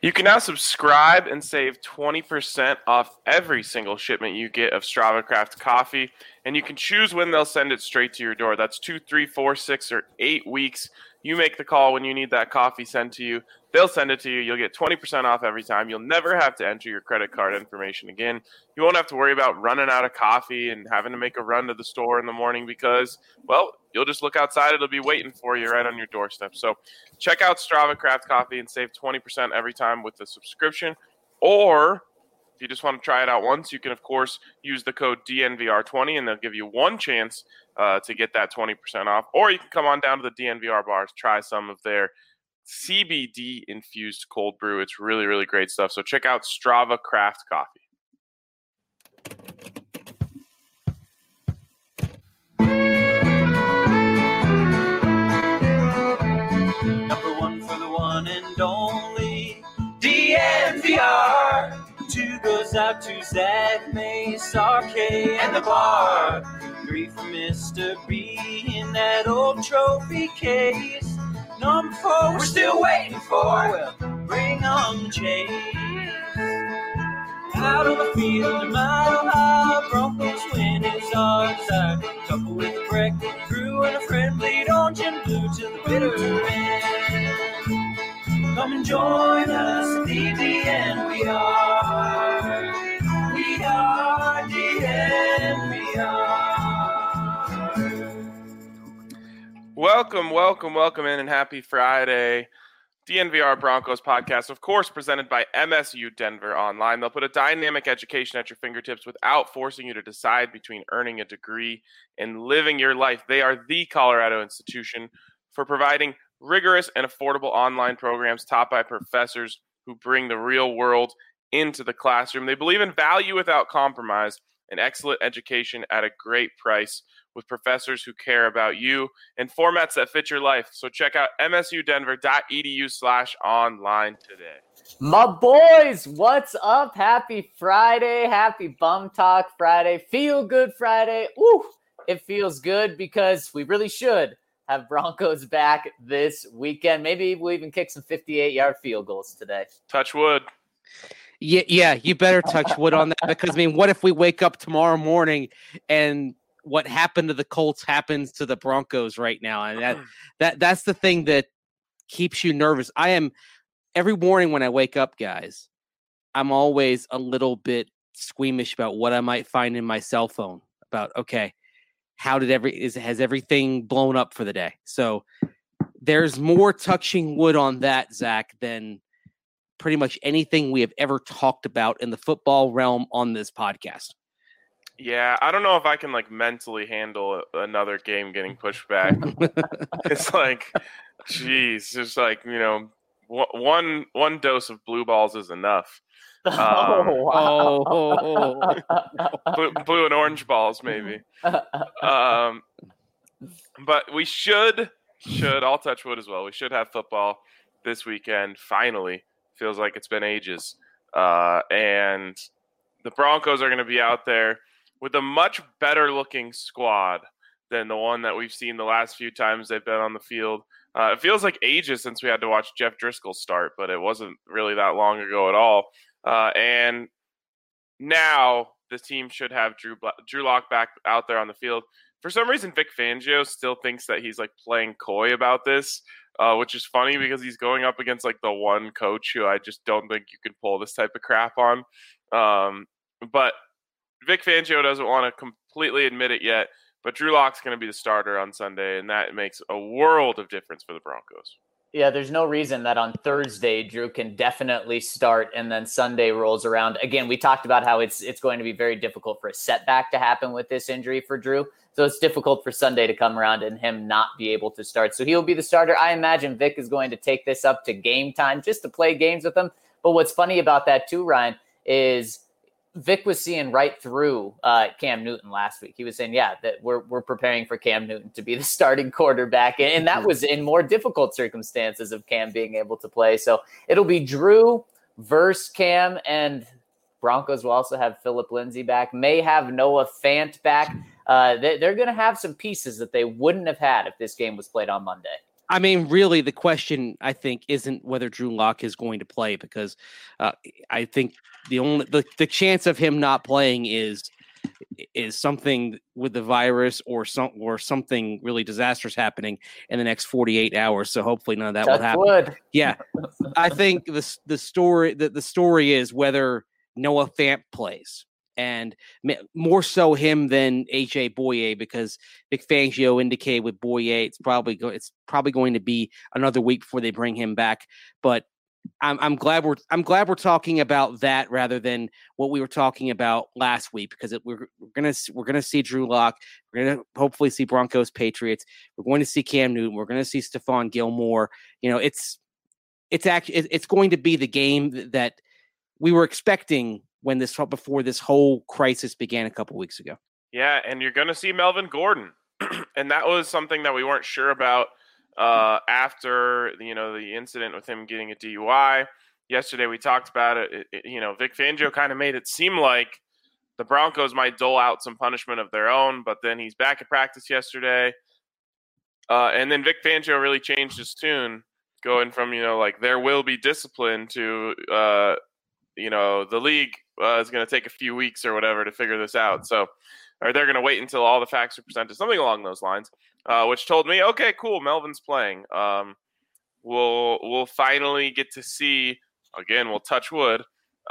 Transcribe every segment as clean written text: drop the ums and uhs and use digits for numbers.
You can now subscribe and save 20% off every single shipment you get of Strava Craft coffee, and you can choose when they'll send it straight to your door. That's 2, 3, 4, 6, or 8 weeks. You make the call when you need that coffee sent to you. They'll send it to you. You'll get 20% off every time. You'll never have to enter your credit card information again. You won't have to worry about running out of coffee and having to make a run to the store in the morning because, well, you'll just look outside. It'll be waiting for you right on your doorstep. So check out Strava Craft Coffee and save 20% every time with the subscription. Or if you just want to try it out once, you can, of course, use the code DNVR20, and they'll give you one chance to get that 20% off. Or you can come on down to the DNVR bars, try some of their CBD-infused cold brew. It's really, really great stuff. So check out Strava Craft Coffee. Number one for the one and only DNVR. 2 goes out to Zach, Mace, RK, and the bar. 3 for Mr. B in that old trophy case. Number 4 we're still waiting for. Well, bring on the chase. Out on the field, a mile high, Broncos win is our side. Couple with a break, crew and a friend, bleed orange and blue to the bitter end. Come and join us at DNVR. We are DNVR. Welcome in, and happy Friday. DNVR Broncos podcast, of course, presented by MSU Denver Online. They'll put a dynamic education at your fingertips without forcing you to decide between earning a degree and living your life. They are the Colorado institution for providing rigorous and affordable online programs taught by professors who bring the real world into the classroom. They believe in value without compromise and excellent education at a great price with professors who care about you and formats that fit your life. So check out msudenver.edu/online today. My boys, what's up? Happy Friday. Happy Bum Talk Friday. Feel good Friday. Woo! It feels good because we really should have Broncos back this weekend. Maybe we'll even kick some 58-yard field goals today. Touch wood. Yeah, you better touch wood on that because, I mean, what if we wake up tomorrow morning and what happened to the Colts happens to the Broncos right now? And that's the thing that keeps you nervous. I am every morning when I wake up, guys, I'm always a little bit squeamish about what I might find in my cell phone about, okay, how did has everything blown up for the day? So there's more touching wood on that, Zach, than pretty much anything we have ever talked about in the football realm on this podcast. Yeah, I don't know if I can mentally handle another game getting pushed back. It's geez, just one dose of blue balls is enough. Wow. Blue and orange balls, maybe. But we should, I'll touch wood as well. We should have football this weekend, finally. Feels like it's been ages. And the Broncos are going to be out there with a much better looking squad than the one that we've seen the last few times they've been on the field. It feels like ages since we had to watch Jeff Driscoll start, but it wasn't really that long ago at all. And now the team should have Drew Lock back out there on the field. For some reason, Vic Fangio still thinks that he's playing coy about this, which is funny because he's going up against the one coach who I just don't think you can pull this type of crap on. But Vic Fangio doesn't want to completely admit it yet, but Drew Lock's going to be the starter on Sunday, and that makes a world of difference for the Broncos. Yeah, there's no reason that on Thursday Drew can definitely start and then Sunday rolls around. Again, we talked about how it's going to be very difficult for a setback to happen with this injury for Drew. So it's difficult for Sunday to come around and him not be able to start. So he'll be the starter. I imagine Vic is going to take this up to game time just to play games with him. But what's funny about that too, Ryan, is Vic was seeing right through Cam Newton last week. He was saying, yeah, that we're preparing for Cam Newton to be the starting quarterback. And that was in more difficult circumstances of Cam being able to play. So it'll be Drew versus Cam, and Broncos will also have Phillip Lindsay back, may have Noah Fant back. They're going to have some pieces that they wouldn't have had if this game was played on Monday. I mean, really, the question I think isn't whether Drew Lock is going to play, because I think the chance of him not playing is something with the virus or something really disastrous happening in the next 48 hours. So hopefully none of that will happen. Wood. Yeah, I think the story is whether Noah Fant plays, and more so him than AJ Boye, because Vic Fangio indicated with Boye it's probably going to be another week before they bring him back. But I'm glad we're talking about that rather than what we were talking about last week, because we're gonna see Drew Lock, we're gonna hopefully see Broncos Patriots, we're going to see Cam Newton, we're going to see Stephon Gilmore. It's going to be the game that we were expecting before this whole crisis began a couple weeks ago. Yeah, and you're going to see Melvin Gordon, and that was something that we weren't sure about after the incident with him getting a DUI. Yesterday we talked about it. Vic Fangio kind of made it seem like the Broncos might dole out some punishment of their own, but then he's back at practice yesterday, and then Vic Fangio really changed his tune, going from there will be discipline to the league is going to take a few weeks or whatever to figure this out. So, or they're going to wait until all the facts are presented, something along those lines, which told me, okay, cool, Melvin's playing. We'll finally get to see, again, we'll touch wood,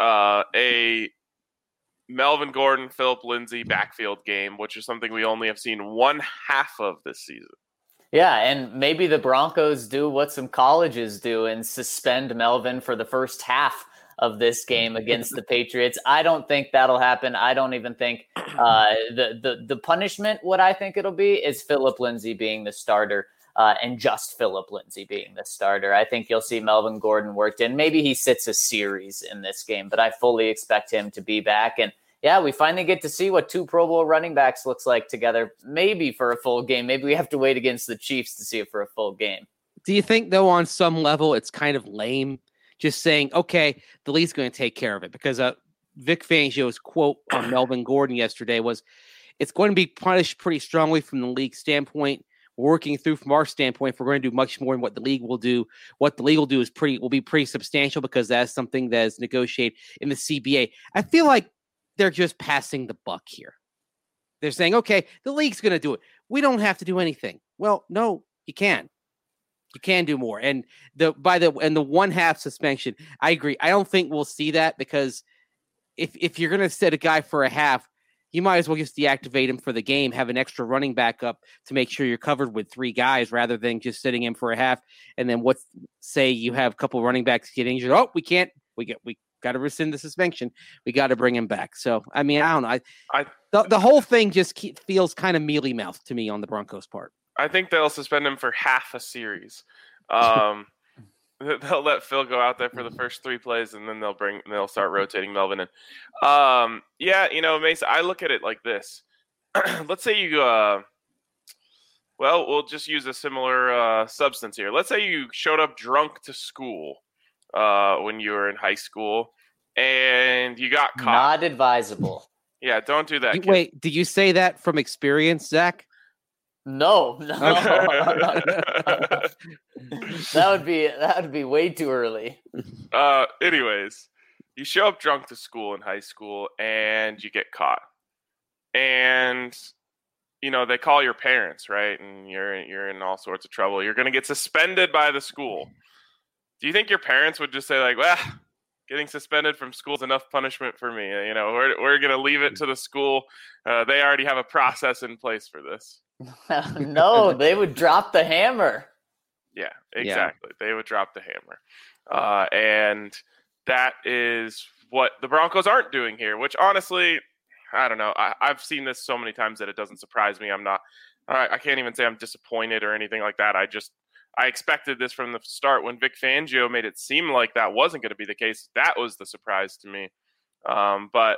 a Melvin Gordon, Phillip Lindsay backfield game, which is something we only have seen one half of this season. Yeah, and maybe the Broncos do what some colleges do and suspend Melvin for the first half of this game against the Patriots. I don't think that'll happen. I don't even think the punishment, what I think it'll be, is Phillip Lindsay being the starter, and just Phillip Lindsay being the starter. I think you'll see Melvin Gordon worked in. Maybe he sits a series in this game, but I fully expect him to be back. And yeah, we finally get to see what two Pro Bowl running backs looks like together, maybe for a full game. Maybe we have to wait against the Chiefs to see it for a full game. Do you think, though, on some level, it's kind of lame just saying, okay, the league's going to take care of it? Because Vic Fangio's quote on Melvin Gordon yesterday was, it's going to be punished pretty strongly from the league standpoint. We're working through from our standpoint. If we're going to do much more than what the league will do, what the league will do will be pretty substantial, because that's something that is negotiated in the CBA. I feel like they're just passing the buck here. They're saying, okay, the league's going to do it. We don't have to do anything. Well, no, you can. You can do more. And the 1/2 suspension, I agree. I don't think we'll see that, because if you're going to set a guy for a half, you might as well just deactivate him for the game, have an extra running back up to make sure you're covered with 3 guys, rather than just sitting him for a half. And then say you have a couple running backs get injured. Oh, we can't. We got to rescind the suspension. We got to bring him back. So, I mean, I don't know. The whole thing just feels kind of mealy mouthed to me on the Broncos' part. I think they'll suspend him for half a series. They'll let Phil go out there for the first 3 plays, and then they'll start rotating Melvin in. Mason, I look at it like this. Let's say you, we'll just use a similar substance here. Let's say you showed up drunk to school when you were in high school, and you got caught. Not advisable. Yeah, don't do that. Wait, did you say that from experience, Zach? No. That would be way too early. Anyways, you show up drunk to school in high school and you get caught. And they call your parents, right? And you're in all sorts of trouble. You're going to get suspended by the school. Do you think your parents would just say, like, well, getting suspended from school is enough punishment for me? We're going to leave it to the school. They already have a process in place for this. No, they would drop the hammer. Yeah, exactly. Yeah. They would drop the hammer. And that is what the Broncos aren't doing here, which honestly, I don't know. I've seen this so many times that it doesn't surprise me. I can't even say I'm disappointed or anything like that. I expected this from the start. When Vic Fangio made it seem like that wasn't going to be the case, that was the surprise to me. But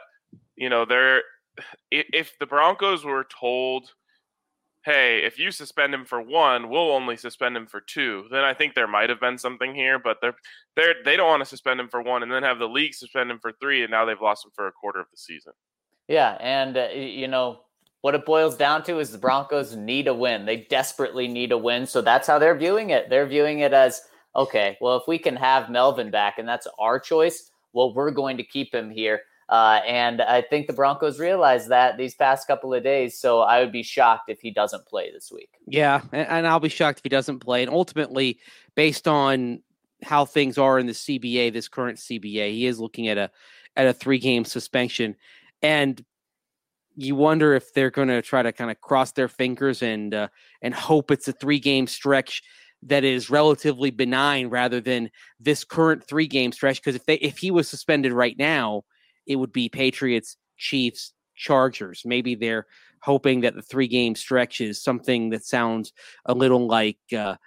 if the Broncos were told, hey, if you suspend him for 1, we'll only suspend him for 2, then I think there might have been something here. But they don't want to suspend him for 1 and then have the league suspend him for 3, and now they've lost him for a quarter of the season. Yeah, and what it boils down to is the Broncos need a win. They desperately need a win. So that's how they're viewing it. They're viewing it as, okay, well, if we can have Melvin back and that's our choice, well, we're going to keep him here. And I think the Broncos realize that these past couple of days. So I would be shocked if he doesn't play this week. Yeah, and I'll be shocked if he doesn't play. And ultimately, based on how things are in the CBA, this current CBA, he is looking at a 3-game suspension. And you wonder if they're going to try to kind of cross their fingers and hope it's a 3-game stretch that is relatively benign rather than this current 3-game stretch. Because if he was suspended right now, it would be Patriots, Chiefs, Chargers. Maybe they're hoping that the 3-game stretch is something that sounds a little like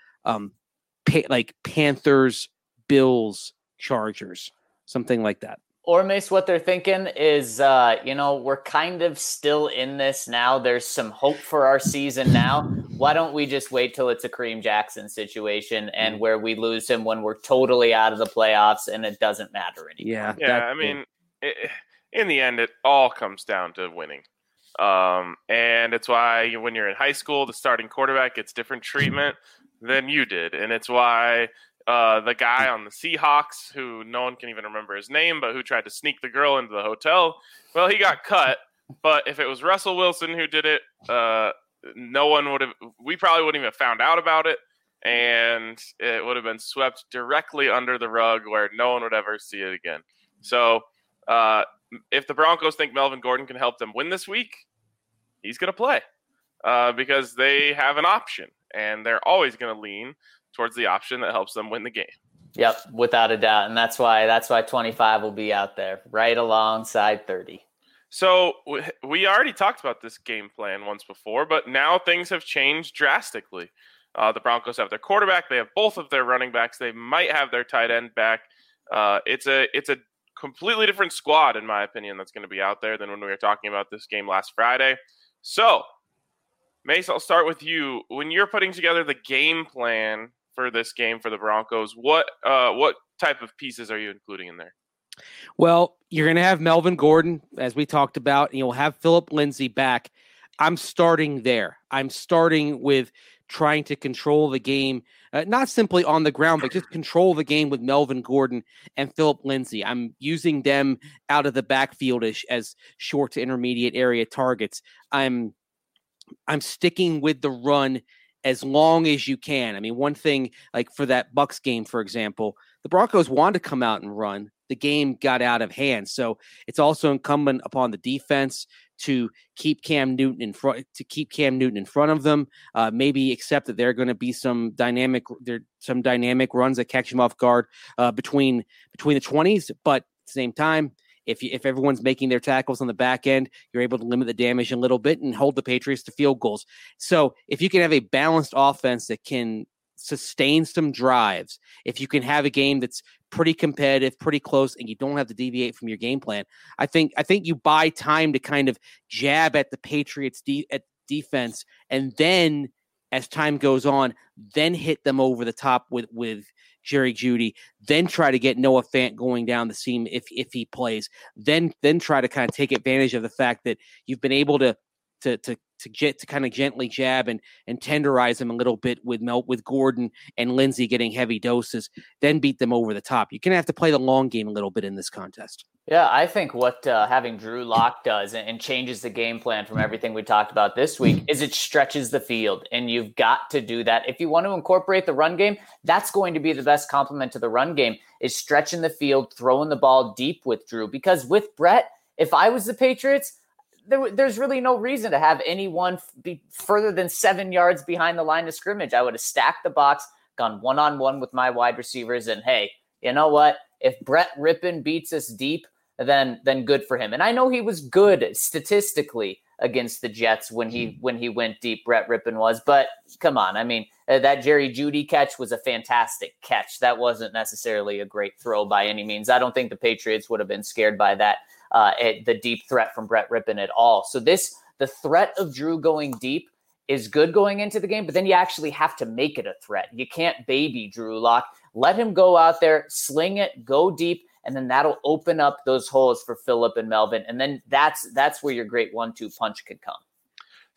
Panthers, Bills, Chargers, something like that. Or Mace, what they're thinking is, we're kind of still in this now. There's some hope for our season now. Why don't we just wait till it's a Kareem Jackson situation and where we lose him when we're totally out of the playoffs and it doesn't matter anymore? Yeah. I mean, in the end, it all comes down to winning. And it's why when you're in high school, the starting quarterback gets different treatment than you did. And it's why the guy on the Seahawks, who no one can even remember his name, but who tried to sneak the girl into the hotel, well, he got cut. But if it was Russell Wilson who did it, we probably wouldn't even have found out about it. And it would have been swept directly under the rug where no one would ever see it again. So if the Broncos think Melvin Gordon can help them win this week, he's going to play because they have an option, and they're always going to lean towards the option that helps them win the game. Yep, without a doubt. And that's why 25 will be out there right alongside 30. So we already talked about this game plan once before, but now things have changed drastically. The Broncos have their quarterback. They have both of their running backs. They might have their tight end back. It's a completely different squad, in my opinion, that's going to be out there than when we were talking about this game last Friday. So, Mace, I'll start with you. When you're putting together the game plan for this game for the Broncos, what type of pieces are you including in there? Well, you're going to have Melvin Gordon, as we talked about, and you'll have Phillip Lindsay back. I'm starting there. I'm starting with trying to control the game, not simply on the ground, but just control the game with Melvin Gordon and Phillip Lindsay. I'm using them out of the backfield-ish as short to intermediate area targets. I'm sticking with the run as long as you can. I mean, one thing, like for that Bucs game, for example, the Broncos wanted to come out and run. The game got out of hand. So it's also incumbent upon the defense to keep Cam Newton in front of them. Maybe accept that there are going to be some dynamic runs that catch him off guard between the 20s. But at the same time, if everyone's making their tackles on the back end, you're able to limit the damage a little bit and hold the Patriots to field goals. So if you can have a balanced offense that can sustain some drives, if you can have a game that's pretty competitive, pretty close, and you don't have to deviate from your game plan, I think you buy time to kind of jab at the Patriots at defense, and then as time goes on, then hit them over the top with Jerry Jeudy, then try to get Noah Fant going down the seam if he plays, then try to kind of take advantage of the fact that you've been able to kind of gently jab and tenderize them a little bit with Gordon and Lindsay getting heavy doses, then beat them over the top. You're going to have to play the long game a little bit in this contest. Yeah, I think what having Drew Lock does and changes the game plan from everything we talked about this week is it stretches the field, and you've got to do that. If you want to incorporate the run game, that's going to be the best complement to the run game, is stretching the field, throwing the ball deep with Drew. Because with Brett, if I was the Patriots, there's really no reason to have anyone be further than 7 yards behind the line of scrimmage. I would have stacked the box, gone one-on-one with my wide receivers, and hey, you know what? If Brett Rippon beats us deep, then good for him. And I know he was good statistically against the Jets when he went deep, Brett Rippon was. But come on, I mean, that Jerry Jeudy catch was a fantastic catch. That wasn't necessarily a great throw by any means. I don't think the Patriots would have been scared by that, the deep threat from Brett Rippon at all. So the threat of Drew going deep is good going into the game, but then you actually have to make it a threat. You can't baby Drew Lock. Let him go out there, sling it, go deep, and then that'll open up those holes for Phillip and Melvin. And then that's where your great 1-2 punch could come.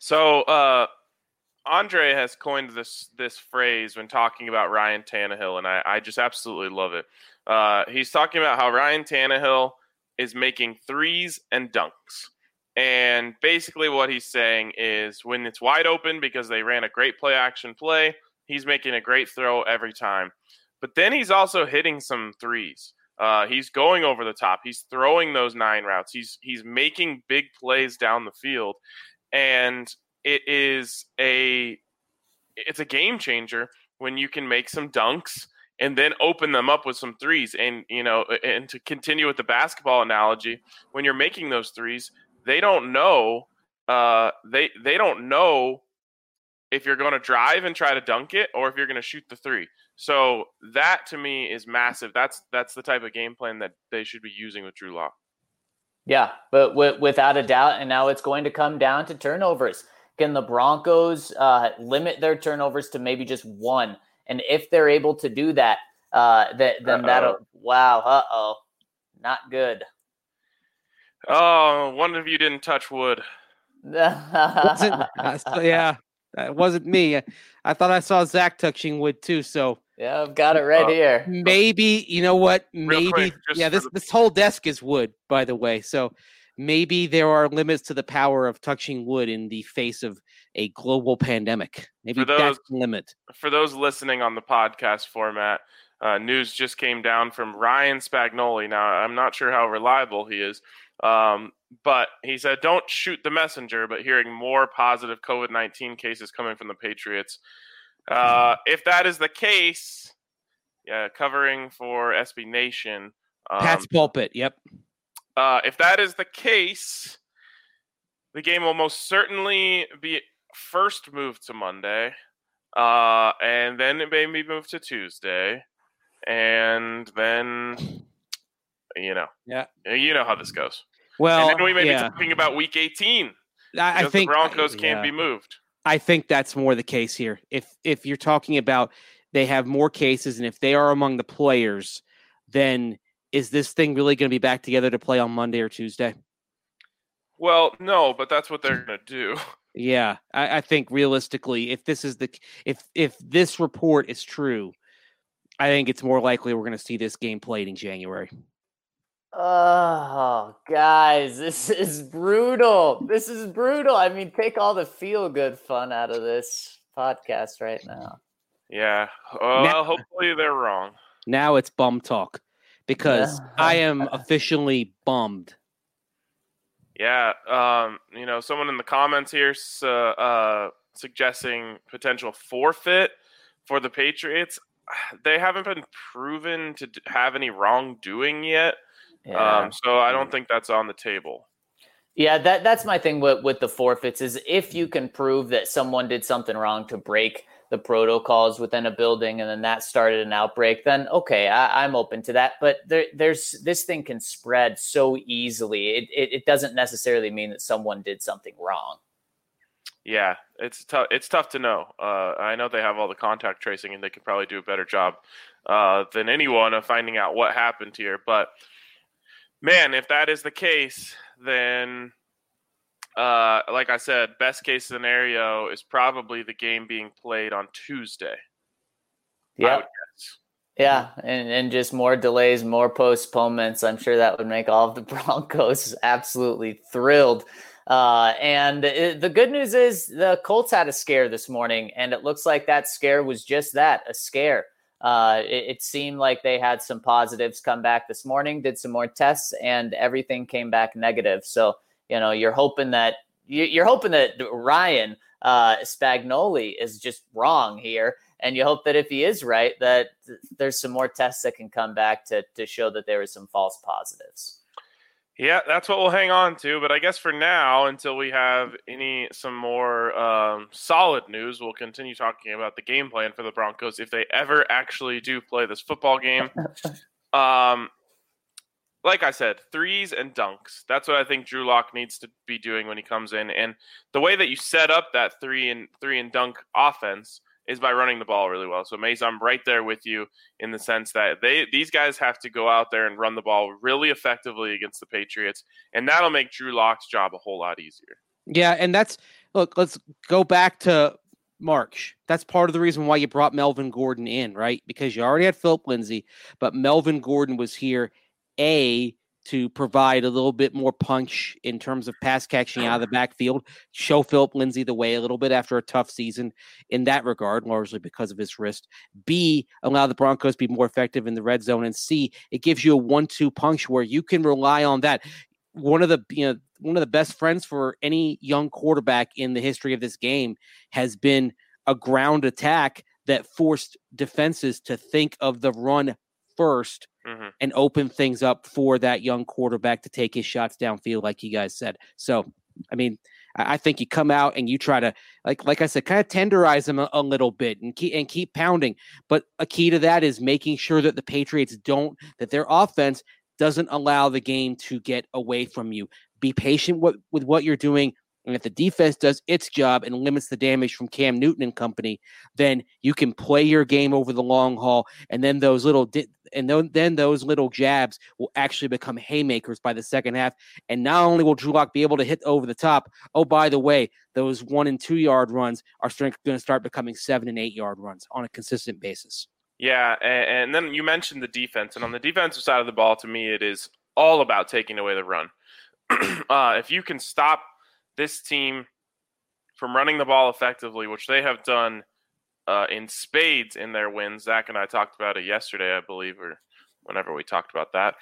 So Andre has coined this phrase when talking about Ryan Tannehill, and I just absolutely love it. He's talking about how Ryan Tannehill is making threes and dunks. And basically what he's saying is when it's wide open because they ran a great play action play, he's making a great throw every time. But then he's also hitting some threes. He's going over the top. He's throwing those 9 routes. He's making big plays down the field. And it's a game changer when you can make some dunks and then open them up with some threes. And, and to continue with the basketball analogy, when you're making those threes, they don't know they don't know if you're going to drive and try to dunk it or if you're going to shoot the three. So that to me is massive. That's the type of game plan that they should be using with Drew Lock. Yeah, but without a doubt, and now it's going to come down to turnovers. Can the Broncos limit their turnovers to maybe just 1? And if they're able to do that, then that'll not good. Oh, one of you didn't touch wood. Yeah, that wasn't me. I thought I saw Zach touching wood too. So yeah, I've got it right here. Maybe, you know what? Maybe, quick, this whole desk is wood, by the way. So maybe there are limits to the power of touching wood in the face of a global pandemic. Maybe that's the limit. For those listening on the podcast format, news just came down from Ryan Spagnoli. Now, I'm not sure how reliable he is, but he said, don't shoot the messenger, but hearing more positive COVID-19 cases coming from the Patriots. If that is the case, covering for SB Nation. Pat's Pulpit, yep. If that is the case, the game will most certainly be first moved to Monday, and then it may be moved to Tuesday, and then, you know how this goes. Well, and then we may be talking about Week 18. I think the Broncos can't be moved. I think that's more the case here. If you're talking about they have more cases, and if they are among the players, then is this thing really going to be back together to play on Monday or Tuesday? Well, no, but that's what they're going to do. Yeah, I think realistically, if this report is true, I think it's more likely we're going to see this game played in January. Oh, guys, this is brutal. This is brutal. I mean, take all the feel-good fun out of this podcast right now. Yeah. Well, hopefully they're wrong. Now it's bum talk because I am officially bummed. Yeah. Someone in the comments here suggesting potential forfeit for the Patriots. They haven't been proven to have any wrongdoing yet. Yeah. So I don't think that's on the table. Yeah, that's my thing with the forfeits is if you can prove that someone did something wrong to break the protocols within a building and then that started an outbreak, then okay, I'm open to that. But there's this thing can spread so easily. It doesn't necessarily mean that someone did something wrong. Yeah, it's tough. It's tough to know. I know they have all the contact tracing and they could probably do a better job than anyone of finding out what happened here. But man, if that is the case, then like I said, best case scenario is probably the game being played on Tuesday. Yeah. Yeah, and just more delays, more postponements. I'm sure that would make all of the Broncos absolutely thrilled. And the good news is the Colts had a scare this morning, and it looks like that scare was just that, a scare. It seemed like they had some positives come back this morning, did some more tests, and everything came back negative. So, you're hoping that Ryan Spagnoli is just wrong here. And you hope that if he is right, that there's some more tests that can come back to show that there were some false positives. Yeah, that's what we'll hang on to. But I guess for now, until we have some more solid news, we'll continue talking about the game plan for the Broncos if they ever actually do play this football game. Like I said, threes and dunks. That's what I think Drew Lock needs to be doing when he comes in. And the way that you set up that three and dunk offense is by running the ball really well. So, Mace, I'm right there with you in the sense that these guys have to go out there and run the ball really effectively against the Patriots, and that'll make Drew Lock's job a whole lot easier. Yeah, and that's look, let's go back to March. That's part of the reason why you brought Melvin Gordon in, right? Because you already had Philip Lindsay, but Melvin Gordon was here, to provide a little bit more punch in terms of pass catching out of the backfield, show Philip Lindsay the way a little bit after a tough season in that regard, largely because of his wrist. B, allow the Broncos to be more effective in the red zone. And C, it gives you a 1-2 punch where you can rely on that. One of the best friends for any young quarterback in the history of this game has been a ground attack that forced defenses to think of the run first and open things up for that young quarterback to take his shots downfield, like you guys said. So, I mean, I think you come out and you try to, like I said, kind of tenderize them a little bit and keep pounding. But a key to that is making sure that the Patriots that their offense doesn't allow the game to get away from you. Be patient with what you're doing. And if the defense does its job and limits the damage from Cam Newton and company, then you can play your game over the long haul. And then those little jabs will actually become haymakers by the second half. And not only will Drew Lock be able to hit over the top, oh, by the way, those 1 and 2 yard runs are going to start becoming 7 and 8 yard runs on a consistent basis. Yeah, and then you mentioned the defense. And on the defensive side of the ball, to me, it is all about taking away the run. If you can stop this team from running the ball effectively, which they have done in spades in their wins. Zach and I talked about it yesterday, I believe, or whenever we talked about that.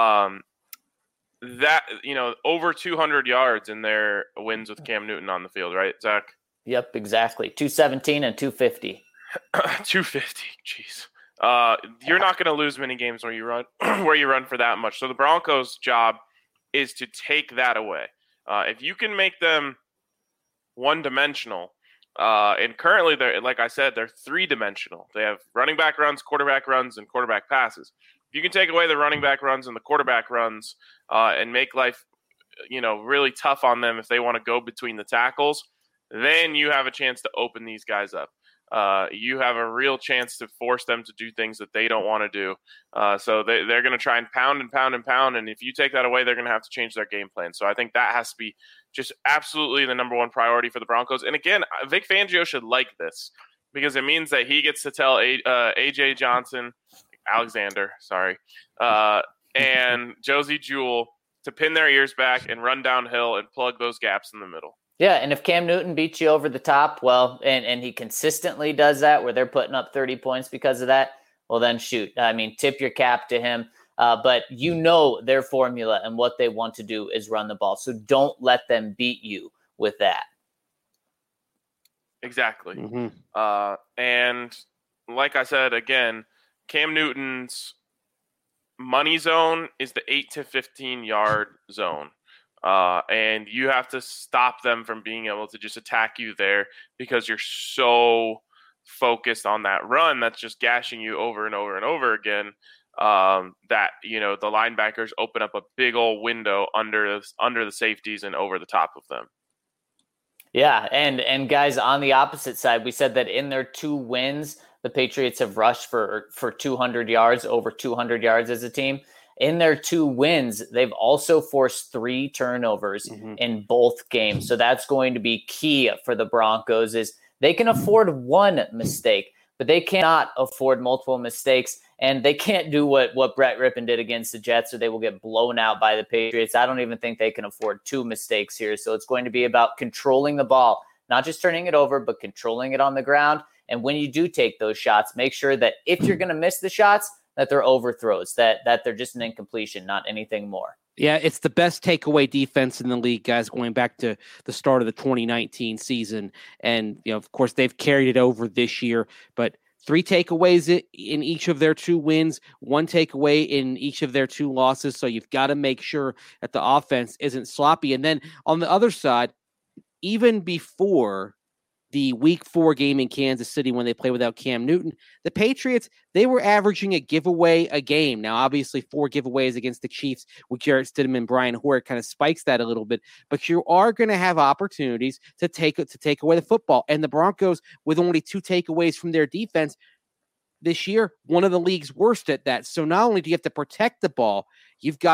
Over 200 yards in their wins with Cam Newton on the field, right, Zach? Yep, exactly. 217 and 250. 250, jeez. You're not going to lose many games where you run for that much. So the Broncos' job is to take that away. If you can make them one-dimensional, and currently, like I said, they're three-dimensional. They have running back runs, quarterback runs, and quarterback passes. If you can take away the running back runs and the quarterback runs and make life, really tough on them if they want to go between the tackles, then you have a chance to open these guys up. You have a real chance to force them to do things that they don't want to do. So they're going to try and pound and pound and pound. And if you take that away, they're going to have to change their game plan. So I think that has to be just absolutely the number one priority for the Broncos. And again, Vic Fangio should like this because it means that he gets to tell AJ Johnson, and Josie Jewell to pin their ears back and run downhill and plug those gaps in the middle. Yeah, and if Cam Newton beats you over the top, well, and he consistently does that where they're putting up 30 points because of that, well, then shoot. I mean, tip your cap to him. But their formula and what they want to do is run the ball. So don't let them beat you with that. Exactly. Mm-hmm. And like I said, again, Cam Newton's money zone is the 8 to 15 yard zone. And you have to stop them from being able to just attack you there because you're so focused on that run that's just gashing you over and over and over again that, the linebackers open up a big old window under the safeties and over the top of them. Yeah, and guys, on the opposite side, we said that in their 2 wins, the Patriots have rushed for 200 yards, over 200 yards as a team. In their 2 wins, they've also forced 3 turnovers in both games. So that's going to be key for the Broncos is they can afford 1 mistake, but they cannot afford multiple mistakes. And they can't do what Brett Rippon did against the Jets, or they will get blown out by the Patriots. I don't even think they can afford 2 mistakes here. So it's going to be about controlling the ball, not just turning it over, but controlling it on the ground. And when you do take those shots, make sure that if you're going to miss the shots, that they're overthrows, that they're just an incompletion, not anything more. Yeah, it's the best takeaway defense in the league, guys, going back to the start of the 2019 season. And, of course, they've carried it over this year, but 3 takeaways in each of their 2 wins, 1 takeaway in each of their 2 losses. So you've got to make sure that the offense isn't sloppy. And then on the other side, even before the week 4 game in Kansas City when they play without Cam Newton, the Patriots, they were averaging a giveaway a game. Now, obviously 4 giveaways against the Chiefs with Jarrett Stidham and Brian Hoyer kind of spikes that a little bit, but you are going to have opportunities to take away the football. And the Broncos, with only 2 takeaways from their defense this year, one of the league's worst at that. So not only do you have to protect the ball, you've got to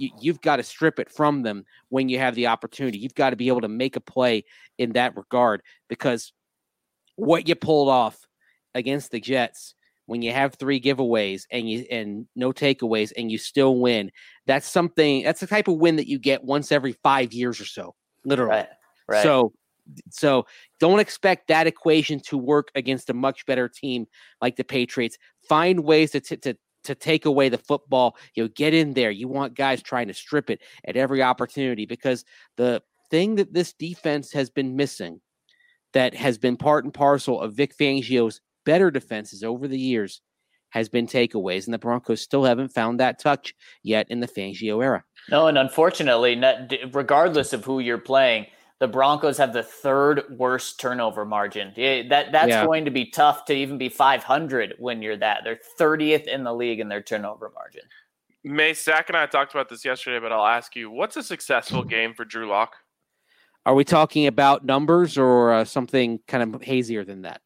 you've got to strip it from them when you have the opportunity. You've got to be able to make a play in that regard, because what you pulled off against the Jets when you have 3 giveaways and no takeaways and you still win, that's the type of win that you get once every 5 years or so, literally. Right. So don't expect that equation to work against a much better team like the Patriots. Find ways to take away the football. Get in there. You want guys trying to strip it at every opportunity, because the thing that this defense has been missing, that has been part and parcel of Vic Fangio's better defenses over the years, has been takeaways, and the Broncos still haven't found that touch yet in the Fangio era. No, and unfortunately, regardless of who you're playing, the Broncos have the 3rd worst turnover margin. That's going to be tough to even be 500 when you're that. They're 30th in the league in their turnover margin. Mace, Zach and I talked about this yesterday, but I'll ask you, what's a successful game for Drew Lock? Are we talking about numbers or something kind of hazier than that?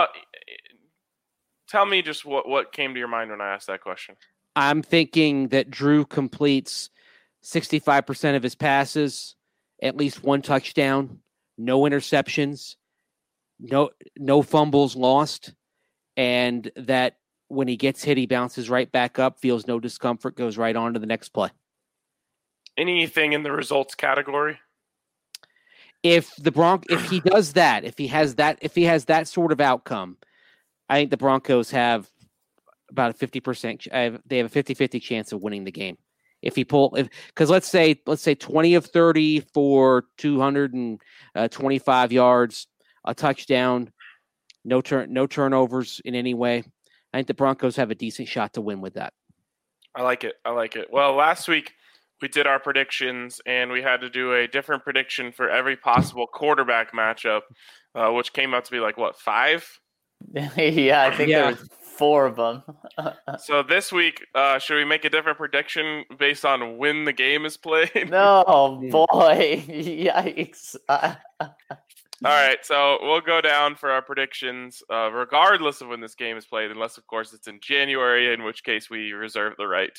Tell me just what came to your mind when I asked that question. I'm thinking that Drew completes 65% of his passes, at least 1 touchdown, no interceptions, no fumbles lost, and that when he gets hit, he bounces right back up, feels no discomfort, goes right on to the next play. Anything in the results category? If he does that, if he has that sort of outcome, I think the Broncos have about a 50%. They have a 50-50 chance of winning the game. Because let's say 20 of 30 for 225 yards, a touchdown, no turnovers in any way. I think the Broncos have a decent shot to win with that. I like it. Well, last week we did our predictions, and we had to do a different prediction for every possible quarterback matchup, which came out to be 5? Yeah, I think there was 4 of them. So this week, should we make a different prediction based on when the game is played? No, boy. Yikes. All right, so we'll go down for our predictions regardless of when this game is played, unless, of course, it's in January, in which case we reserve the right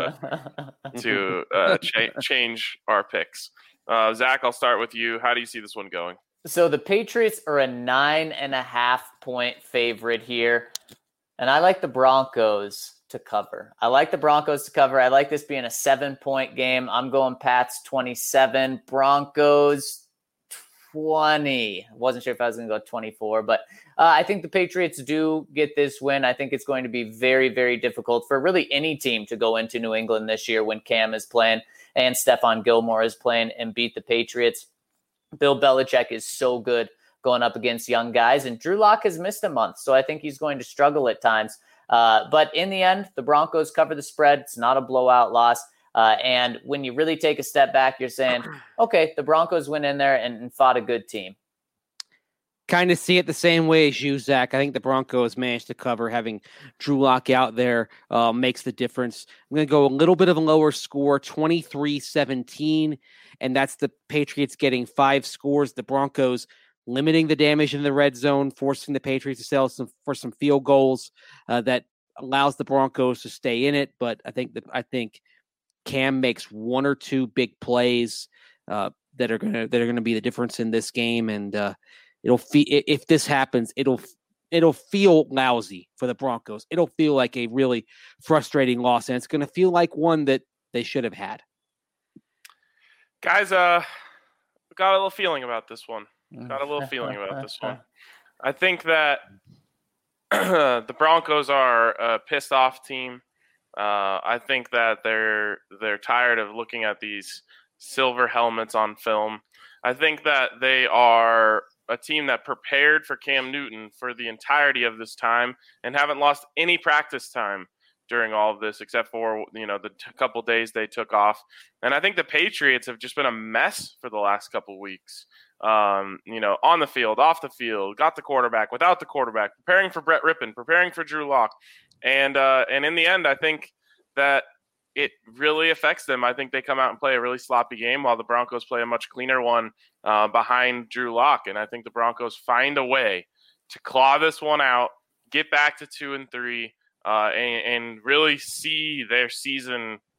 to change our picks. Zach, I'll start with you. How do you see this one going? So the Patriots are a 9.5-point favorite here, and I like the Broncos to cover. I like this being a 7-point game. I'm going Pats 27, Broncos 20. Wasn't sure if I was going to go 24, but I think the Patriots do get this win. I think it's going to be very, very difficult for really any team to go into New England this year when Cam is playing and Stephon Gilmore is playing and beat the Patriots. Bill Belichick is so good going up against young guys, and Drew Lock has missed a month, so I think he's going to struggle at times. But in the end, the Broncos cover the spread. It's not a blowout loss. And when you really take a step back, you're saying, okay, the Broncos went in there and fought a good team. Kind of see it the same way as you, Zach. I think the Broncos managed to cover. Having Drew Lock out there makes the difference. I'm going to go a little bit of a lower score, 23-17, and that's the Patriots getting 5 scores. The Broncos limiting the damage in the red zone, forcing the Patriots to settle for some field goals that allows the Broncos to stay in it. But I think Cam makes 1 or 2 big plays that are gonna be the difference in this game, and if this happens, it'll feel lousy for the Broncos. It'll feel like a really frustrating loss, and it's going to feel like one that they should have had. Guys, got a little feeling about this one. I think that the Broncos are a pissed off team. I think that they're tired of looking at these silver helmets on film. I think that they are a team that prepared for Cam Newton for the entirety of this time and haven't lost any practice time during all of this, except for, the couple days they took off. And I think the Patriots have just been a mess for the last couple weeks. On the field, off the field, got the quarterback, without the quarterback, preparing for Brett Rippon, preparing for Drew Lock. And in the end, I think that it really affects them. I think they come out and play a really sloppy game while the Broncos play a much cleaner one behind Drew Lock. And I think the Broncos find a way to claw this one out, get back to 2-3, and really see their season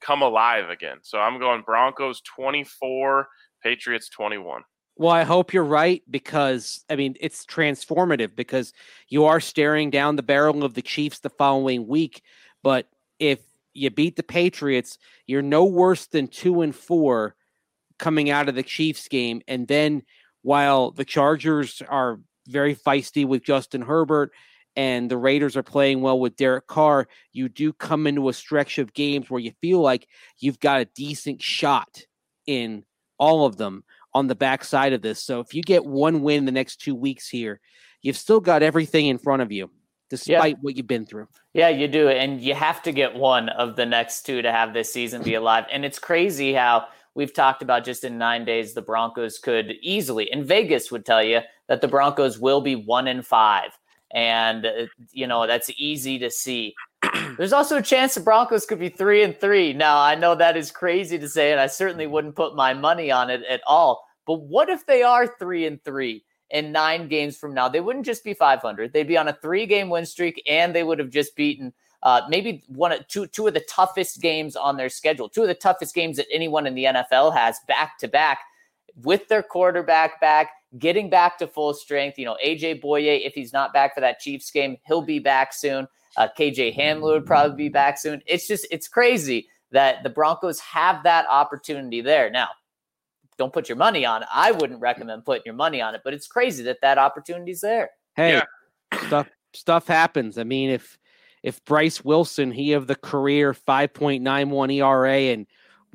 come alive again. So I'm going Broncos 24, Patriots 21. Well, I hope you're right because, I mean, it's transformative because you are staring down the barrel of the Chiefs the following week. But if you beat the Patriots, you're no worse than 2-4 coming out of the Chiefs game. And then while the Chargers are very feisty with Justin Herbert and the Raiders are playing well with Derek Carr, you do come into a stretch of games where you feel like you've got a decent shot in all of them on the backside of this. So if you get one win the next 2 weeks here, you've still got everything in front of you, despite what you've been through. Yeah, you do. And you have to get one of the next two to have this season be alive. And it's crazy how we've talked about just in 9 days, the Broncos could easily, and Vegas would tell you that the Broncos will be 1-5. And, that's easy to see. There's also a chance the Broncos could be 3-3. Now, I know that is crazy to say, and I certainly wouldn't put my money on it at all. But what if they are 3-3 in 9 games from now? They wouldn't just be 500. They'd be on a 3-game win streak, and they would have just beaten maybe two of the toughest games on their schedule, 2 of the toughest games that anyone in the NFL has back to back, with their quarterback back, getting back to full strength. AJ Boye, if he's not back for that Chiefs game, he'll be back soon. KJ Hamler would probably be back soon. It's crazy that the Broncos have that opportunity there. Now, don't put your money on it. I wouldn't recommend putting your money on it, but it's crazy that opportunity's there. Hey, stuff happens. I mean, if Bryce Wilson, he of the career 5.91 ERA and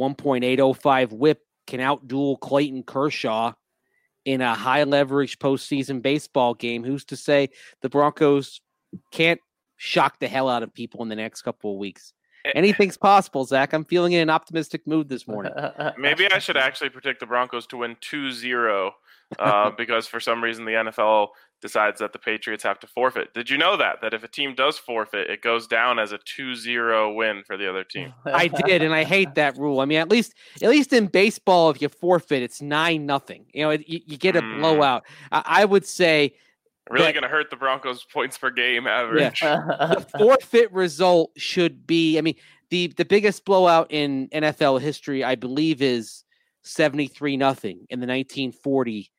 1.805 WHIP, can outduel Clayton Kershaw in a high leverage postseason baseball game, who's to say the Broncos can't shock the hell out of people in the next couple of weeks? Anything's possible, Zach. I'm feeling in an optimistic mood this morning. Maybe I should actually predict the Broncos to win 2-0 because for some reason the NFL decides that the Patriots have to forfeit. Did you know that if a team does forfeit, it goes down as a 2-0 win for the other team? I did, and I hate that rule. I mean, at least in baseball, if you forfeit, it's 9-0. You get a blowout. I would say really going to hurt the Broncos' points per game average. Yeah. The forfeit result should be, I mean, the biggest blowout in NFL history, I believe, is 73-0 in the 1940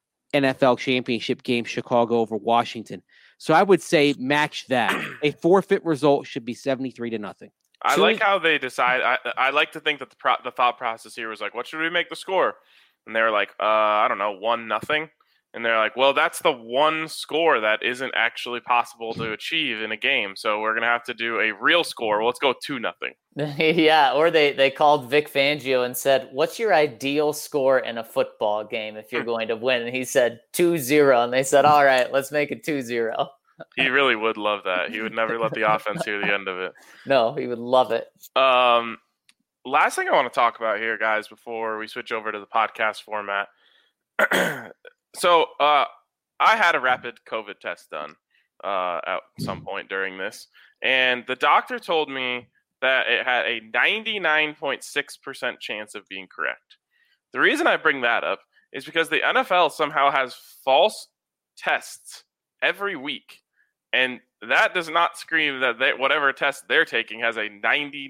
NFL championship game, Chicago over Washington. So I would say match that. A forfeit result should be 73-0. I like how they decide. I like to think that the thought process here was like, what should we make the score? And they were like, I don't know, 1-0. And they're like, well, that's the one score that isn't actually possible to achieve in a game. So we're going to have to do a real score. Well, let's go 2-0. Yeah, or they called Vic Fangio and said, what's your ideal score in a football game if you're going to win? And he said 2-0. And they said, all right, let's make it 2-0. He really would love that. He would never let the offense hear the end of it. No, he would love it. Last thing I want to talk about here, guys, before we switch over to the podcast format. So I had a rapid COVID test done at some point during this, and the doctor told me that it had a 99.6% chance of being correct. The reason I bring that up is because the NFL somehow has false tests every week, and that does not scream that whatever test they're taking has a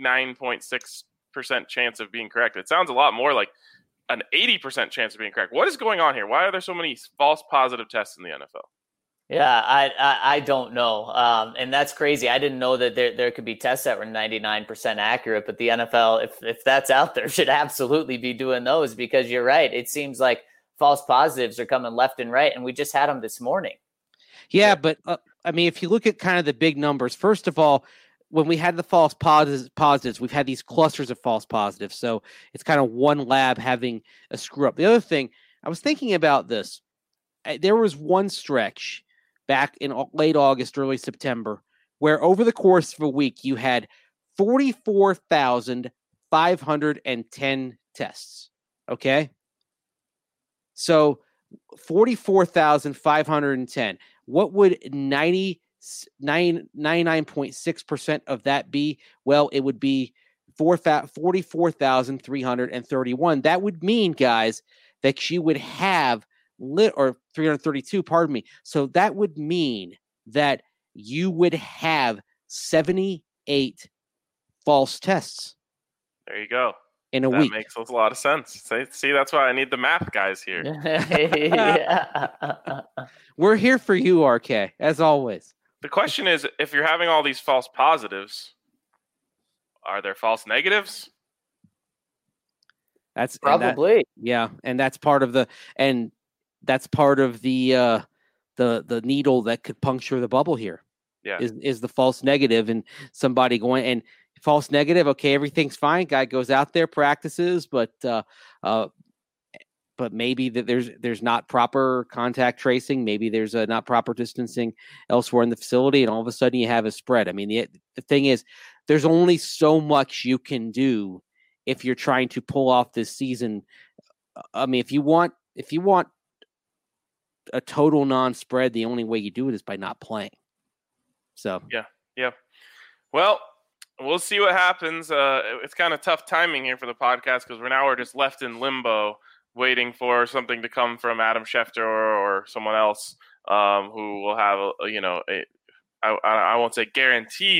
99.6% chance of being correct. It sounds a lot more like an 80% chance of being correct. What is going on here? Why are there so many false positive tests in the NFL? Yeah, I don't know. And that's crazy. I didn't know that there could be tests that were 99% accurate, but the NFL, if that's out there, should absolutely be doing those, because you're right. It seems like false positives are coming left and right, and we just had them this morning. Yeah, but I mean, if you look at kind of the big numbers, first of all, when we had the false positives, we've had these clusters of false positives. So it's kind of one lab having a screw up. The other thing, I was thinking about this. There was one stretch back in late August, early September, where over the course of a week, you had 44,510 tests. Okay? So 44,510. What would 99.6% of that be? Well, it would be 44,331. That would mean, guys, that you would have or 332, pardon me. So that would mean that you would have 78 false tests. There you go. in a That week. makes a lot of sense. See, that's why I need the math guys here. Yeah. We're here for you, RK, as always. The question is, if you're having all these false positives, are there false negatives? That's Probably. and that's part of the needle that could puncture the bubble here. Yeah. Is the false negative, and somebody going and false negative. Okay, everything's fine. Guy goes out there, practices, but maybe that there's not proper contact tracing. Maybe there's not proper distancing elsewhere in the facility, and all of a sudden you have a spread. I mean, the thing is, there's only so much you can do if you're trying to pull off this season. I mean, if you want a total non-spread, the only way you do it is by not playing. So yeah. Well, we'll see what happens. It's kind of tough timing here for the podcast because we're just left in limbo, waiting for something to come from Adam Schefter or someone else who will have I won't say guaranteed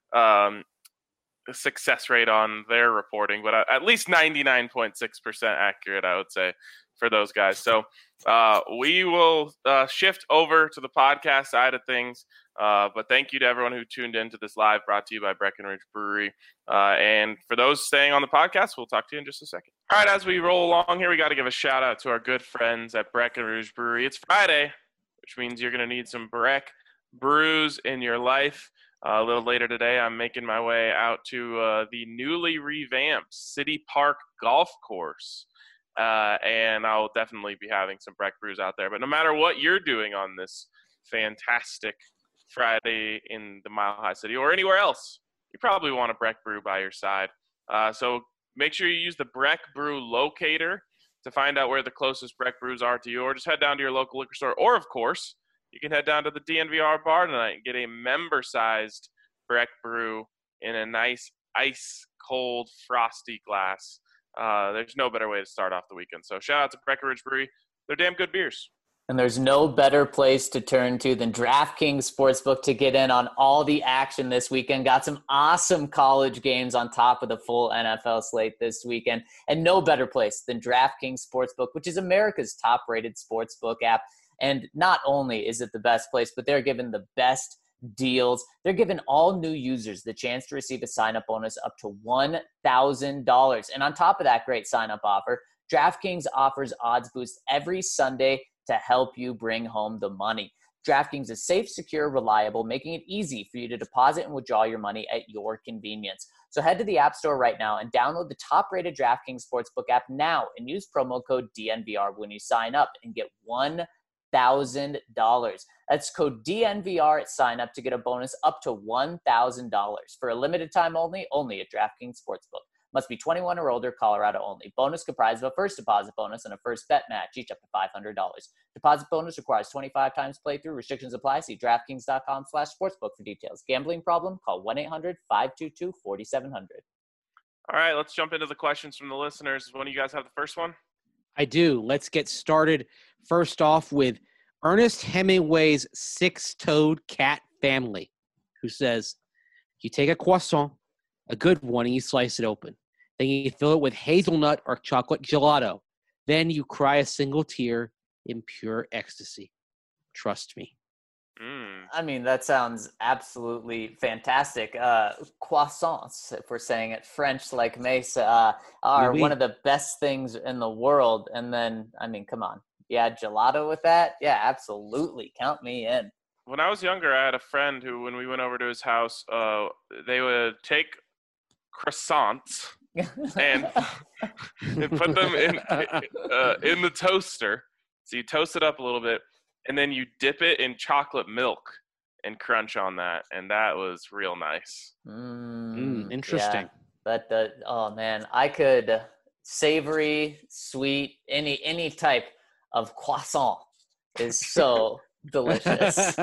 success rate on their reporting, but at least 99.6% accurate, I would say, for those guys. So we will shift over to the podcast side of things. But thank you to everyone who tuned in to this live, brought to you by Breckenridge Brewery. And for those staying on the podcast, we'll talk to you in just a second. All right, as we roll along here, we got to give a shout out to our good friends at Breckenridge Brewery. It's Friday, which means you're going to need some Breck brews in your life. A little later today, I'm making my way out to the newly revamped City Park Golf Course. And I'll definitely be having some Breck brews out there. But no matter what you're doing on this fantastic Friday in the Mile High City or anywhere else, you probably want a Breck brew by your side. So make sure you use the Breck Brew Locator to find out where the closest Breck brews are to you, or just head down to your local liquor store. Or, of course, you can head down to the DNVR bar tonight and get a member-sized Breck brew in a nice ice-cold frosty glass. There's no better way to start off the weekend. So shout out to Breckenridge Brewery. They're damn good beers. And there's no better place to turn to than DraftKings Sportsbook to get in on all the action this weekend. Got some awesome college games on top of the full NFL slate this weekend. And no better place than DraftKings Sportsbook, which is America's top-rated sportsbook app. And not only is it the best place, but they're giving the best deals. They're giving all new users the chance to receive a sign-up bonus up to $1,000. And on top of that great sign-up offer, DraftKings offers odds boosts every Sunday to help you bring home the money. DraftKings is safe, secure, reliable, making it easy for you to deposit and withdraw your money at your convenience. So head to the App Store right now and download the top-rated DraftKings Sportsbook app now and use promo code DNVR when you sign up and get $1,000. That's code DNVR at sign up to get a bonus up to $1,000 for a limited time only at DraftKings Sportsbook. Must be 21 or older, Colorado only. Bonus comprised of a first deposit bonus and a first bet match, each up to $500. Deposit bonus requires 25 times playthrough. Restrictions apply. See DraftKings.com/sportsbook for details. Gambling problem? Call 1-800-522-4700. All right, let's jump into the questions from the listeners. One of you guys have the first one? I do. Let's get started. First off with Ernest Hemingway's six-toed cat family, who says, you take a croissant, a good one, and you slice it open. Then you fill it with hazelnut or chocolate gelato. Then you cry a single tear in pure ecstasy. Trust me. I mean, that sounds absolutely fantastic. Croissants, if we're saying it French like Mesa, are one of the best things in the world. And then, I mean, come on. Yeah, gelato with that? Yeah, absolutely. Count me in. When I was younger, I had a friend who, when we went over to his house, they would take croissants and put them in the toaster. So you toast it up a little bit, and then you dip it in chocolate milk and crunch on that, and that was real nice. Interesting. Yeah, oh man, I could savory, sweet, any type of croissant is so delicious.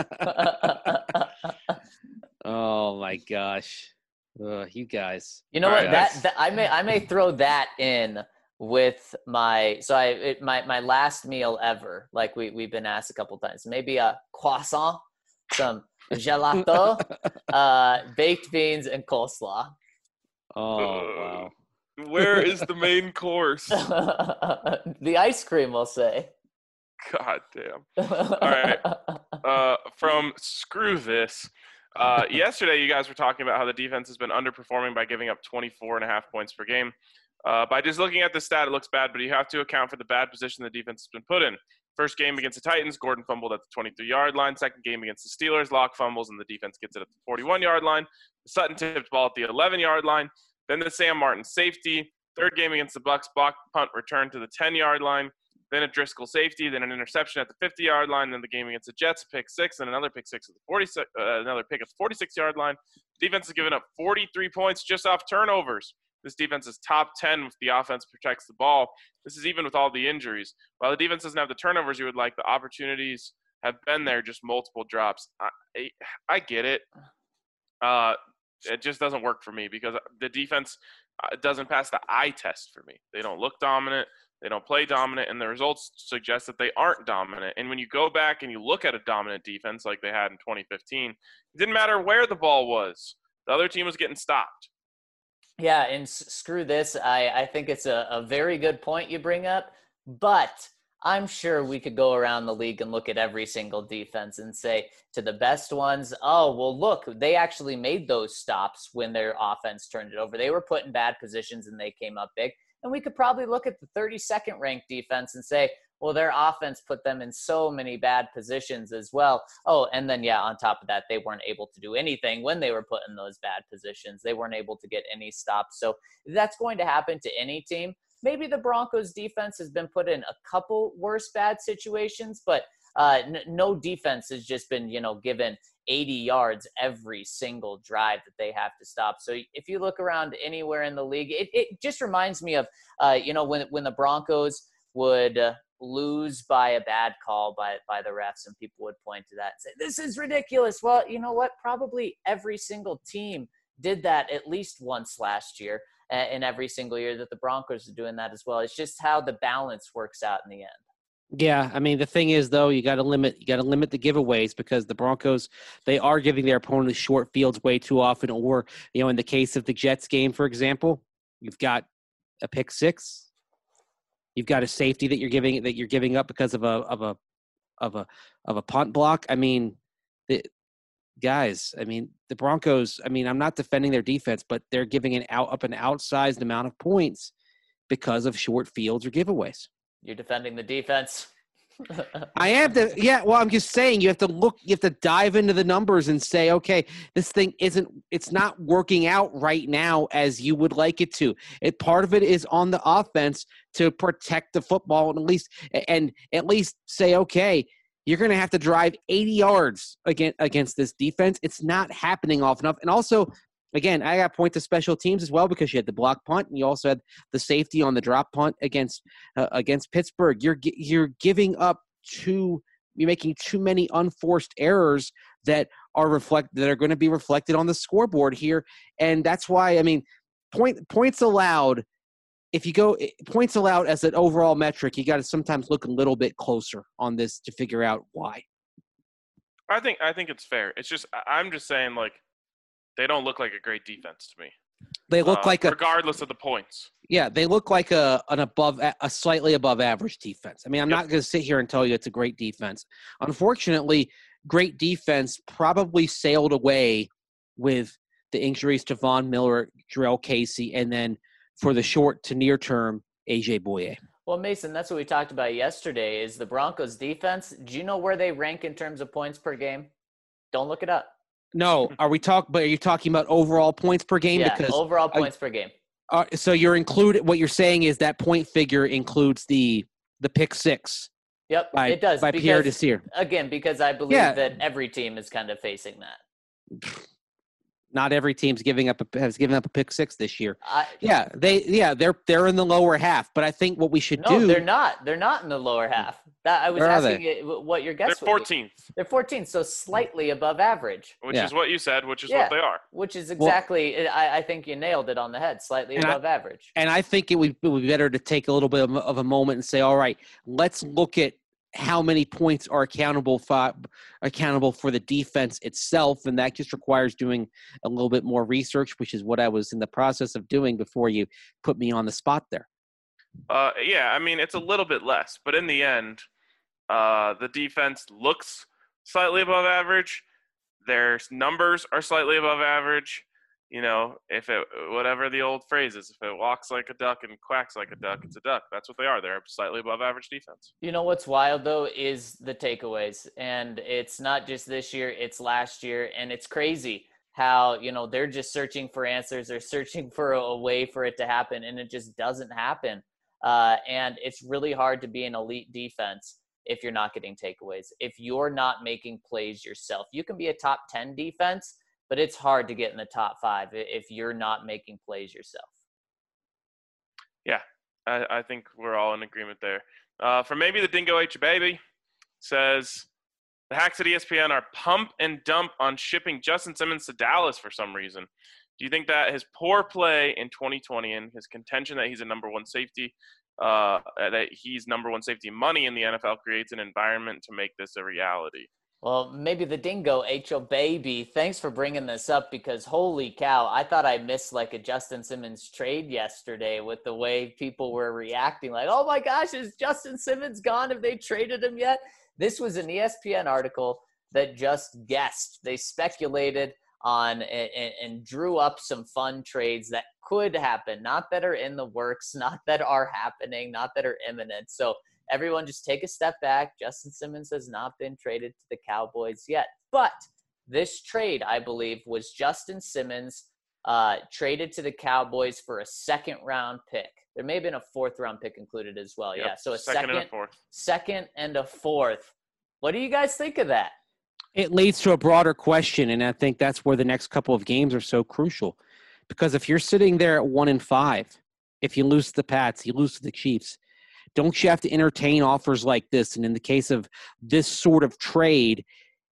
Oh my gosh. You guys. You know what? That I may throw that in with my my last meal ever. Like we've been asked a couple times. Maybe a croissant, some gelato, baked beans, and coleslaw. Oh wow. Where is the main course? The ice cream, we'll say. God damn. All right. From Screw This. Yesterday, you guys were talking about how the defense has been underperforming by giving up 24.5 points per game. By just looking at the stat, it looks bad, but you have to account for the bad position the defense has been put in. First game against the Titans, Gordon fumbled at the 23-yard line. Second game against the Steelers, Locke fumbles, and the defense gets it at the 41-yard line. Sutton tipped ball at the 11-yard line. Then the Sam Martin safety. Third game against the Bucs, block punt return to the 10-yard line. Then a Driscoll safety, then an interception at the 50-yard line. Then the game against the Jets, pick six, and another pick six at the another pick at the 46-yard line. Defense has given up 43 points just off turnovers. This defense is top 10 if the offense protects the ball. This is even with all the injuries. While the defense doesn't have the turnovers you would like, the opportunities have been there, just multiple drops. I get it. It just doesn't work for me because the defense doesn't pass the eye test for me. They don't look dominant. They don't play dominant, and the results suggest that they aren't dominant. And when you go back and you look at a dominant defense like they had in 2015, it didn't matter where the ball was. The other team was getting stopped. Yeah, and screw this. I think it's a very good point you bring up, but I'm sure we could go around the league and look at every single defense and say to the best ones, oh, well, look, they actually made those stops when their offense turned it over. They were put in bad positions and they came up big. And we could probably look at the 32nd ranked defense and say, well, their offense put them in so many bad positions as well. Oh, and then, yeah, on top of that, they weren't able to do anything when they were put in those bad positions. They weren't able to get any stops. So that's going to happen to any team. Maybe the Broncos defense has been put in a couple worse bad situations, but no defense has just been, given 80 yards every single drive that they have to stop. So if you look around anywhere in the league, it just reminds me of, when the Broncos would lose by a bad call by the refs, and people would point to that and say, this is ridiculous. Well, you know what? Probably every single team did that at least once last year, and every single year that the Broncos are doing that as well. It's just how the balance works out in the end. Yeah, I mean, the thing is, though, you got to limit the giveaways because the Broncos, they are giving their opponents short fields way too often. Or, in the case of the Jets game, for example, you've got a pick six, you've got a safety that you're giving up because of a punt block. I mean, the Broncos. I mean, I'm not defending their defense, but they're giving an outsized amount of points because of short fields or giveaways. You're defending the defense. I am well, I'm just saying you have to dive into the numbers and say, okay, this thing it's not working out right now as you would like it to. Part of it is on the offense to protect the football and at least say, okay, you're going to have to drive 80 yards against this defense. It's not happening often enough. And also, again, I got to point to special teams as well because you had the block punt and you also had the safety on the drop punt against Pittsburgh. You're giving up you're making too many unforced errors that are going to be reflected on the scoreboard here, and that's why I mean points allowed. If you go points allowed as an overall metric, you got to sometimes look a little bit closer on this to figure out why. I think it's fair. It's just I'm just saying they don't look like a great defense to me. They look regardless of the points. Yeah, they look like a slightly above average defense. I mean, I'm not going to sit here and tell you it's a great defense. Unfortunately, great defense probably sailed away with the injuries to Von Miller, Jarrell Casey, and then for the short to near term, AJ Bouye. Well, Mason, that's what we talked about yesterday is the Broncos defense. Do you know where they rank in terms of points per game? Don't look it up. No, are you talking about overall points per game? Yeah, because overall points per game. So what you're saying is that point figure includes the pick six. Yep, it does. By Pierre Desir. Again, because I believe that every team is kind of facing that. Not every team's has given up a pick six this year. They're in the lower half, but I think what we should do. No, they're not. They're not in the lower half. I was asking you what your guess They're would 14th. be. They're 14th, so slightly above average. Which is what you said, which is what they are. Which is exactly, I think you nailed it on the head, slightly above average. And I think it would be better to take a little bit of a moment and say, all right, let's look at how many points are accountable for the defense itself, and that just requires doing a little bit more research, which is what I was in the process of doing before you put me on the spot there. Yeah, I mean, it's a little bit less, but in the end, the defense looks slightly above average. Their numbers are slightly above average. You know, whatever the old phrase is, if it walks like a duck and quacks like a duck, it's a duck. That's what they are. They're a slightly above average defense. You know what's wild, though, is the takeaways. And it's not just this year, it's last year. And it's crazy how, they're just searching for answers. They're searching for a way for it to happen, and it just doesn't happen. And it's really hard to be an elite defense if you're not getting takeaways, if you're not making plays yourself. You can be a top 10 defense, but it's hard to get in the top 5 if you're not making plays yourself. Yeah, I think we're all in agreement there. For maybe the Dingo H Baby says, the hacks at ESPN are pump and dump on shipping Justin Simmons to Dallas for some reason. Do you think that his poor play in 2020 and his contention that he's a number one safety, that he's number one safety money in the NFL creates an environment to make this a reality? Well, maybe the Dingo H.O. Baby, thanks for bringing this up, because holy cow, I thought I missed like a Justin Simmons trade yesterday with the way people were reacting. Like, oh my gosh, is Justin Simmons gone? Have they traded him yet? This was an ESPN article that just guessed. They speculated on and drew up some fun trades that could happen, not that are in the works, not that are happening, not that are imminent. So everyone just take a step back. Justin Simmons has not been traded to the Cowboys yet. But this trade, I believe, was Justin Simmons traded to the Cowboys for a second-round pick. There may have been a fourth-round pick included as well. Yep. Yeah, so a second and a fourth. Second and a fourth. What do you guys think of that? It leads to a broader question, and I think that's where the next couple of games are so crucial. Because if you're sitting there at 1-5, if you lose to the Pats, you lose to the Chiefs, don't you have to entertain offers like this? And in the case of this sort of trade,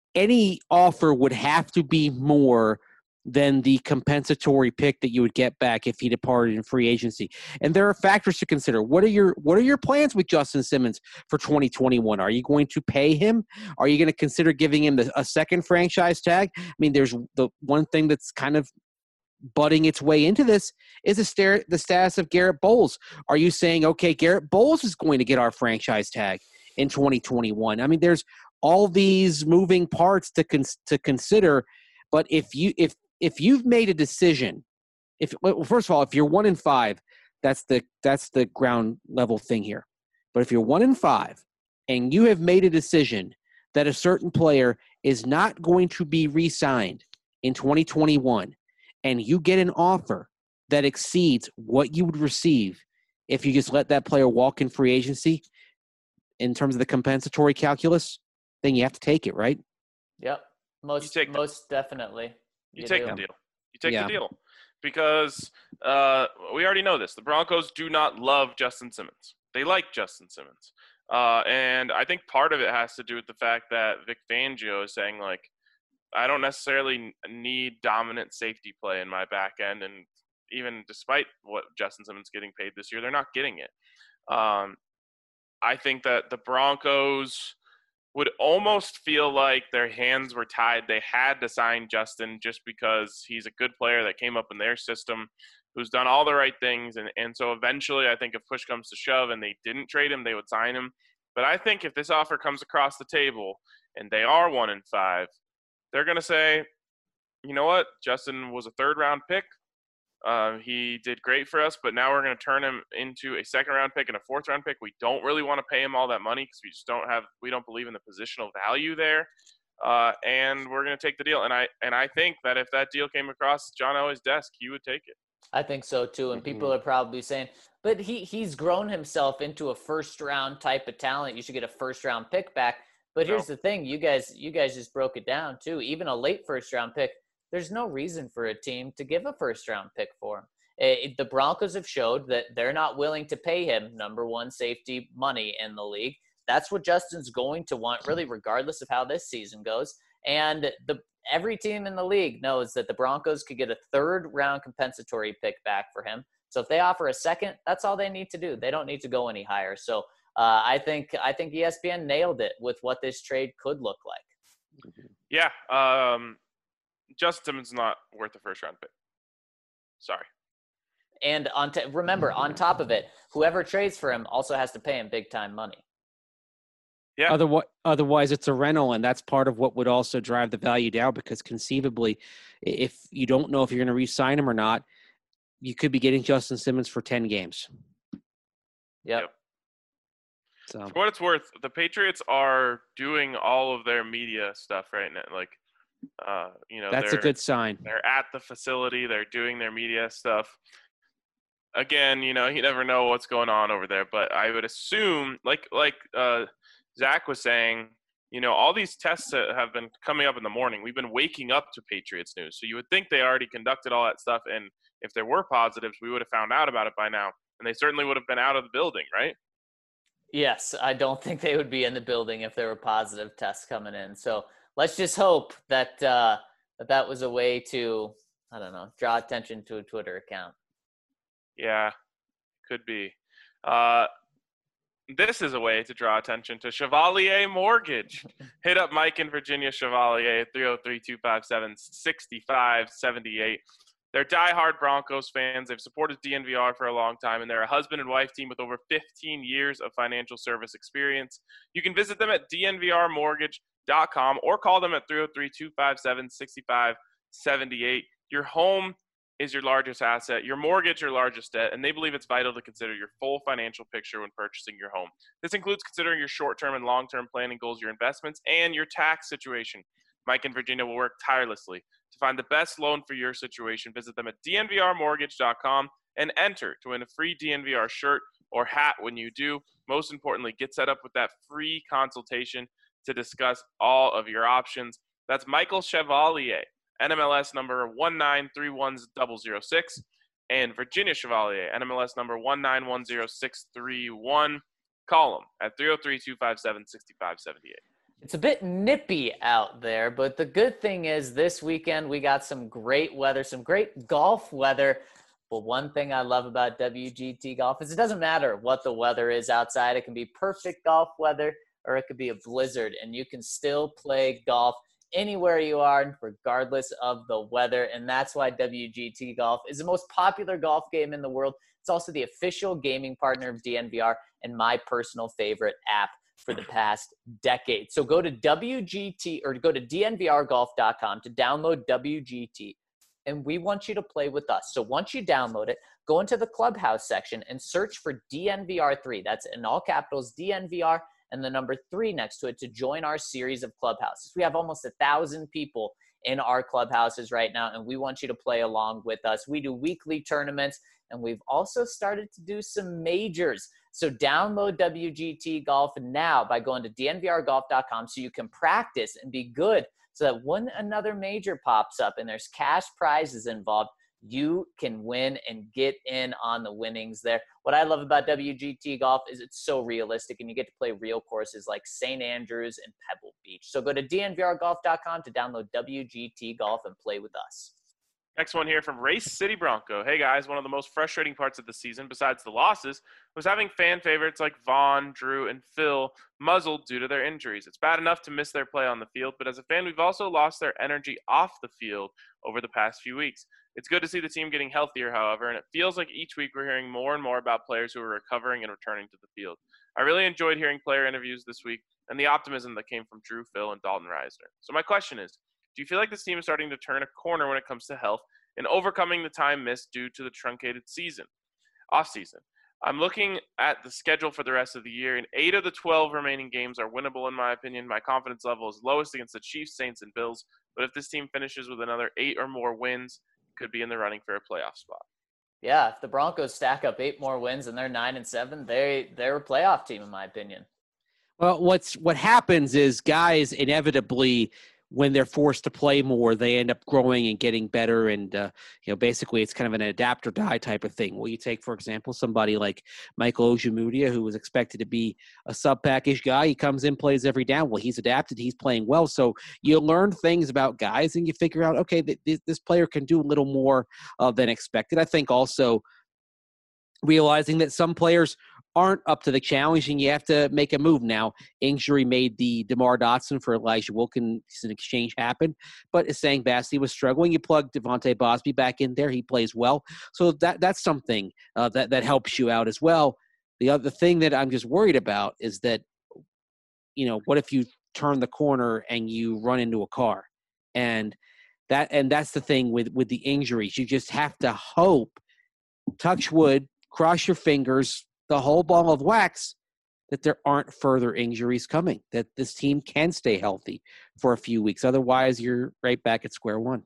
any offer would have to be more than the compensatory pick that you would get back if he departed in free agency. And there are factors to consider. What are your plans with Justin Simmons for 2021? Are you going to pay him? Are you going to consider giving him a second franchise tag? I mean, there's the one thing that's kind of butting its way into this is the status of Garrett Bowles. Are you saying, okay, Garrett Bowles is going to get our franchise tag in 2021? I mean, there's all these moving parts to consider. But if you've made a decision, first of all, if you're 1-5, that's the ground level thing here. But if you're 1-5 and you have made a decision that a certain player is not going to be re-signed in 2021, and you get an offer that exceeds what you would receive if you just let that player walk in free agency in terms of the compensatory calculus, then you have to take it, right? Yep. Most definitely. You take the deal. You take the deal. Because we already know this. The Broncos do not love Justin Simmons. They like Justin Simmons. And I think part of it has to do with the fact that Vic Fangio is saying, like, I don't necessarily need dominant safety play in my back end. And even despite what Justin Simmons getting paid this year, they're not getting it. I think that the Broncos would almost feel like their hands were tied. They had to sign Justin just because he's a good player that came up in their system, who's done all the right things. And so eventually I think if push comes to shove and they didn't trade him, they would sign him. But I think if this offer comes across the table and they are 1-5, they're going to say, you know what? Justin was a third-round pick. He did great for us, but now we're going to turn him into a second-round pick and a fourth-round pick. We don't really want to pay him all that money because we don't believe in the positional value there. And we're going to take the deal. And I think that if that deal came across John Elway's desk, he would take it. I think so too. And people are probably saying, but he's grown himself into a first-round type of talent. You should get a first-round pick back. But here's the thing, you guys just broke it down too. Even a late first-round pick, there's no reason for a team to give a first-round pick for him. The Broncos have showed that they're not willing to pay him number one safety money in the league. That's what Justin's going to want, really, regardless of how this season goes. And every team in the league knows that the Broncos could get a third-round compensatory pick back for him. So if they offer a second, that's all they need to do. They don't need to go any higher. So I think ESPN nailed it with what this trade could look like. Yeah, Justin Simmons is not worth a first round pick. Sorry. And remember, on top of it, whoever trades for him also has to pay him big time money. Yeah. Otherwise, it's a rental, and that's part of what would also drive the value down, because conceivably, if you don't know if you're going to re-sign him or not, you could be getting Justin Simmons for 10 games. Yep. So, for what it's worth, the Patriots are doing all of their media stuff right now. Like, that's a good sign. They're at the facility. They're doing their media stuff. Again, you never know what's going on over there, but I would assume, like Zach was saying, all these tests have been coming up in the morning. We've been waking up to Patriots news. So you would think they already conducted all that stuff. And if there were positives, we would have found out about it by now. And they certainly would have been out of the building, right? Yes, I don't think they would be in the building if there were positive tests coming in. So let's just hope that that was a way to, I don't know, draw attention to a Twitter account. Yeah, could be. This is a way to draw attention to Chevalier Mortgage. Hit up Mike in Virginia Chevalier at 303-257-6578. They're diehard Broncos fans. They've supported DNVR for a long time, and they're a husband and wife team with over 15 years of financial service experience. You can visit them at dnvrmortgage.com or call them at 303-257-6578. Your home is your largest asset, your mortgage your largest debt, and they believe it's vital to consider your full financial picture when purchasing your home. This includes considering your short-term and long-term planning goals, your investments, and your tax situation. Mike in Virginia will work tirelessly to find the best loan for your situation. Visit them at dnvrmortgage.com and enter to win a free DNVR shirt or hat when you do. Most importantly, get set up with that free consultation to discuss all of your options. That's Michael Chevalier, NMLS number 1931006, and Virginia Chevalier, NMLS number 1910631. Call them at 303-257-6578. It's a bit nippy out there, but the good thing is this weekend we got some great weather, some great golf weather. But one thing I love about WGT Golf is it doesn't matter what the weather is outside. It can be perfect golf weather or it could be a blizzard, and you can still play golf anywhere you are, regardless of the weather. And that's why WGT Golf is the most popular golf game in the world. It's also the official gaming partner of DNVR and my personal favorite app for the past decade. So go to WGT or go to DNVRgolf.com to download WGT. And we want you to play with us. So once you download it, go into the Clubhouse section and search for DNVR3. That's in all capitals, DNVR, and the number 3 next to it to join our series of clubhouses. We have almost 1,000 people in our clubhouses right now, and we want you to play along with us. We do weekly tournaments, and we've also started to do some majors. So download WGT Golf now by going to dnvrgolf.com so you can practice and be good so that when another major pops up and there's cash prizes involved, you can win and get in on the winnings there. What I love about WGT Golf is it's so realistic, and you get to play real courses like St. Andrews and Pebble Beach. So go to dnvrgolf.com to download WGT Golf and play with us. Next one here from Race City Bronco. Hey guys, one of the most frustrating parts of the season, besides the losses, was having fan favorites like Vaughn, Drew, and Phil muzzled due to their injuries. It's bad enough to miss their play on the field, but as a fan, we've also lost their energy off the field over the past few weeks. It's good to see the team getting healthier, however, and it feels like each week we're hearing more and more about players who are recovering and returning to the field. I really enjoyed hearing player interviews this week and the optimism that came from Drew, Phil, and Dalton Reisner. So my question is, do you feel like this team is starting to turn a corner when it comes to health and overcoming the time missed due to the truncated off-season? I'm looking at the schedule for the rest of the year, and 8 of the 12 remaining games are winnable in my opinion. My confidence level is lowest against the Chiefs, Saints, and Bills, but if this team finishes with another 8 or more wins, it could be in the running for a playoff spot. Yeah, if the Broncos stack up 8 more wins and they're 9-7, they're a playoff team in my opinion. Well, what happens is guys inevitably, when they're forced to play more, they end up growing and getting better. And, basically it's kind of an adapt or die type of thing. Well, you take, for example, somebody like Michael Ojemudia, who was expected to be a sub-package guy. He comes in, plays every down. Well, he's adapted. He's playing well. So you learn things about guys and you figure out, okay, this player can do a little more than expected. I think also realizing that some players aren't up to the challenge, and you have to make a move now. Injury made the DeMar Dotson for Elijah Wilkinson exchange happen, but Essang Bassey was struggling. You plug Devontae Bosby back in there; he plays well, so that's something that helps you out as well. The other thing that I'm just worried about is that, what if you turn the corner and you run into a car, and that's the thing with the injuries. You just have to hope, touch wood, cross your fingers, the whole ball of wax, that there aren't further injuries coming, that this team can stay healthy for a few weeks. Otherwise, you're right back at square one.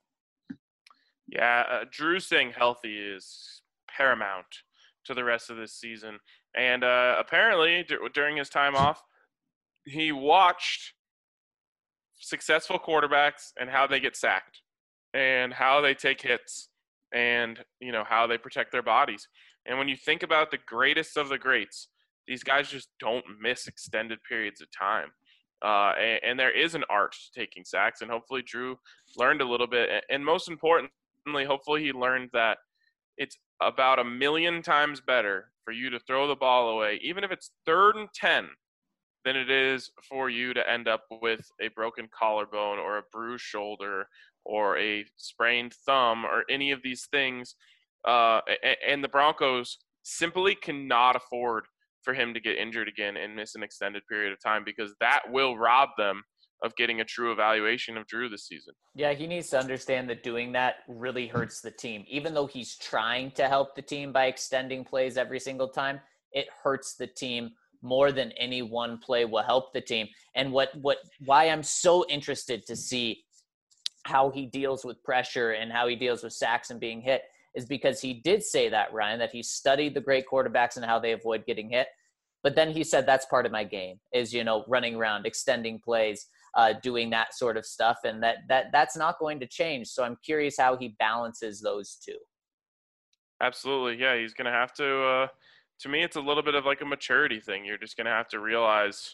Yeah, Drew staying healthy is paramount to the rest of this season. And apparently, during his time off, he watched successful quarterbacks and how they get sacked and how they take hits and, how they protect their bodies. And when you think about the greatest of the greats, these guys just don't miss extended periods of time. And there is an art to taking sacks, and hopefully Drew learned a little bit. And most importantly, hopefully he learned that it's about 1,000,000 times better for you to throw the ball away, even if it's 3rd and 10, than it is for you to end up with a broken collarbone or a bruised shoulder or a sprained thumb or any of these things. And the Broncos simply cannot afford for him to get injured again and miss an extended period of time, because that will rob them of getting a true evaluation of Drew this season. Yeah, he needs to understand that doing that really hurts the team. Even though he's trying to help the team by extending plays every single time, it hurts the team more than any one play will help the team. And why I'm so interested to see how he deals with pressure and how he deals with sacks and being hit is because he did say that, Ryan, that he studied the great quarterbacks and how they avoid getting hit. But then he said, that's part of my game is, running around, extending plays, doing that sort of stuff. And that's not going to change. So I'm curious how he balances those two. Absolutely. Yeah. He's going to have to me, it's a little bit of like a maturity thing. You're just going to have to realize,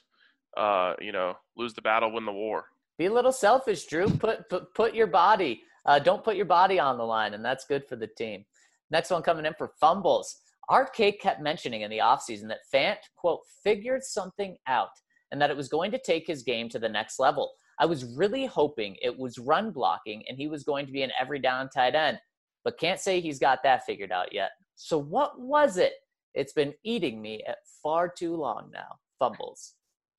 lose the battle, win the war. Be a little selfish, Drew. Put your body. Don't put your body on the line, and that's good for the team. Next one coming in for fumbles. Art K kept mentioning in the offseason that Fant, quote, figured something out and that it was going to take his game to the next level. I was really hoping it was run blocking and he was going to be an every down tight end, but can't say he's got that figured out yet. So what was it? It's been eating me at far too long now. Fumbles.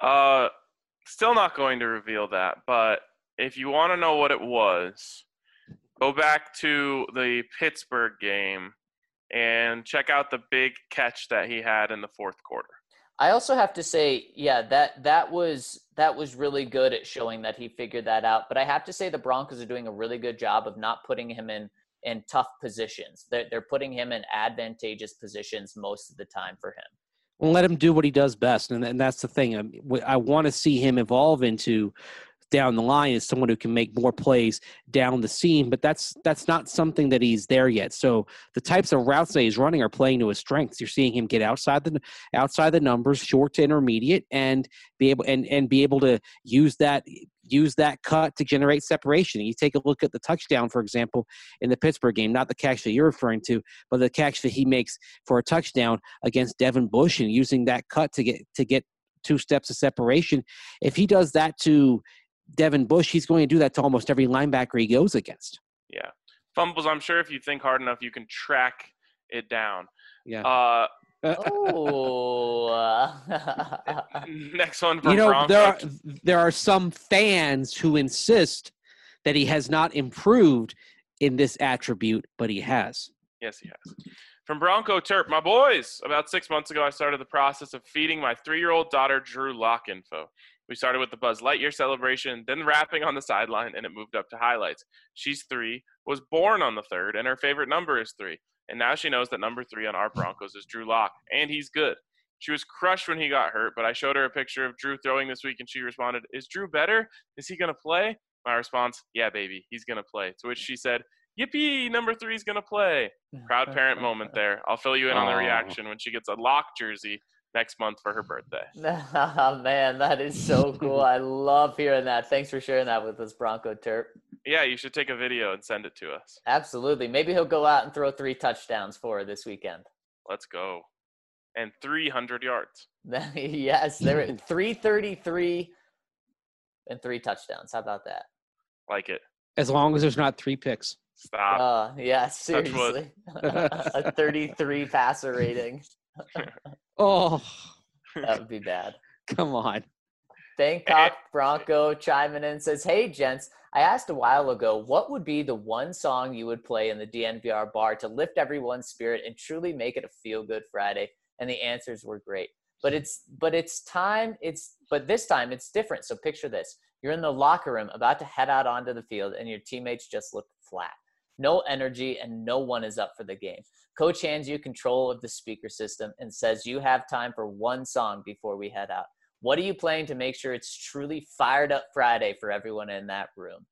Still not going to reveal that, but if you want to know what it was, go back to the Pittsburgh game and check out the big catch that he had in the fourth quarter. I also have to say, yeah, that was really good at showing that he figured that out. But I have to say the Broncos are doing a really good job of not putting him in tough positions. They're putting him in advantageous positions most of the time for him. Well, let him do what he does best, and that's the thing. I want to see him evolve into down the line as someone who can make more plays down the seam, but that's not something that he's there yet. So the types of routes that he's running are playing to his strengths. You're seeing him get outside the numbers, short to intermediate, and be able to use that cut to generate separation. You take a look at the touchdown, for example, in the Pittsburgh game, not the catch that you're referring to, but the catch that he makes for a touchdown against Devin Bush and using that cut to get 2 steps of separation. If he does that to Devin Bush, he's going to do that to almost every linebacker he goes against. Yeah. Fumbles, I'm sure if you think hard enough, you can track it down. Yeah. Next one from Broncos. There are some fans who insist that he has not improved in this attribute, but he has. Yes, he has. From Bronco Terp, my boys, about 6 months ago, I started the process of feeding my 3-year-old daughter Drew Lock info. We started with the Buzz Lightyear celebration, then rapping on the sideline, and it moved up to highlights. She's 3, was born on the 3rd, and her favorite number is 3. And now she knows that number 3 on our Broncos is Drew Lock, and he's good. She was crushed when he got hurt, but I showed her a picture of Drew throwing this week, and she responded, "Is Drew better? Is he going to play?" My response, "Yeah, baby, he's going to play." To which she said, "Yippee, number 3 is going to play." Proud parent moment there. I'll fill you in on the reaction when she gets a Lock jersey next month for her birthday. Oh, man, that is so cool. I love hearing that. Thanks for sharing that with us, Bronco Terp. Yeah, you should take a video and send it to us. Absolutely. Maybe he'll go out and throw 3 touchdowns for her this weekend. Let's go. and 300 yards. Yes, they're at 333 and 3 touchdowns. How about that? Like it. As long as there's not 3 picks. Stop. Yeah, Touch wood. seriously. A 33 passer rating. Oh, That would be bad. come on. Bangkok Bronco chiming in says, "Hey, gents, I asked a while ago, what would be the one song you would play in the DNVR bar to lift everyone's spirit and truly make it a feel-good Friday?" And the answers were great. But this time it's different. So picture this. You're in the locker room about to head out onto the field and your teammates just look flat. No energy and no one is up for the game. Coach hands you control of the speaker system and says you have time for one song before we head out. What are you playing to make sure it's truly fired up Friday for everyone in that room?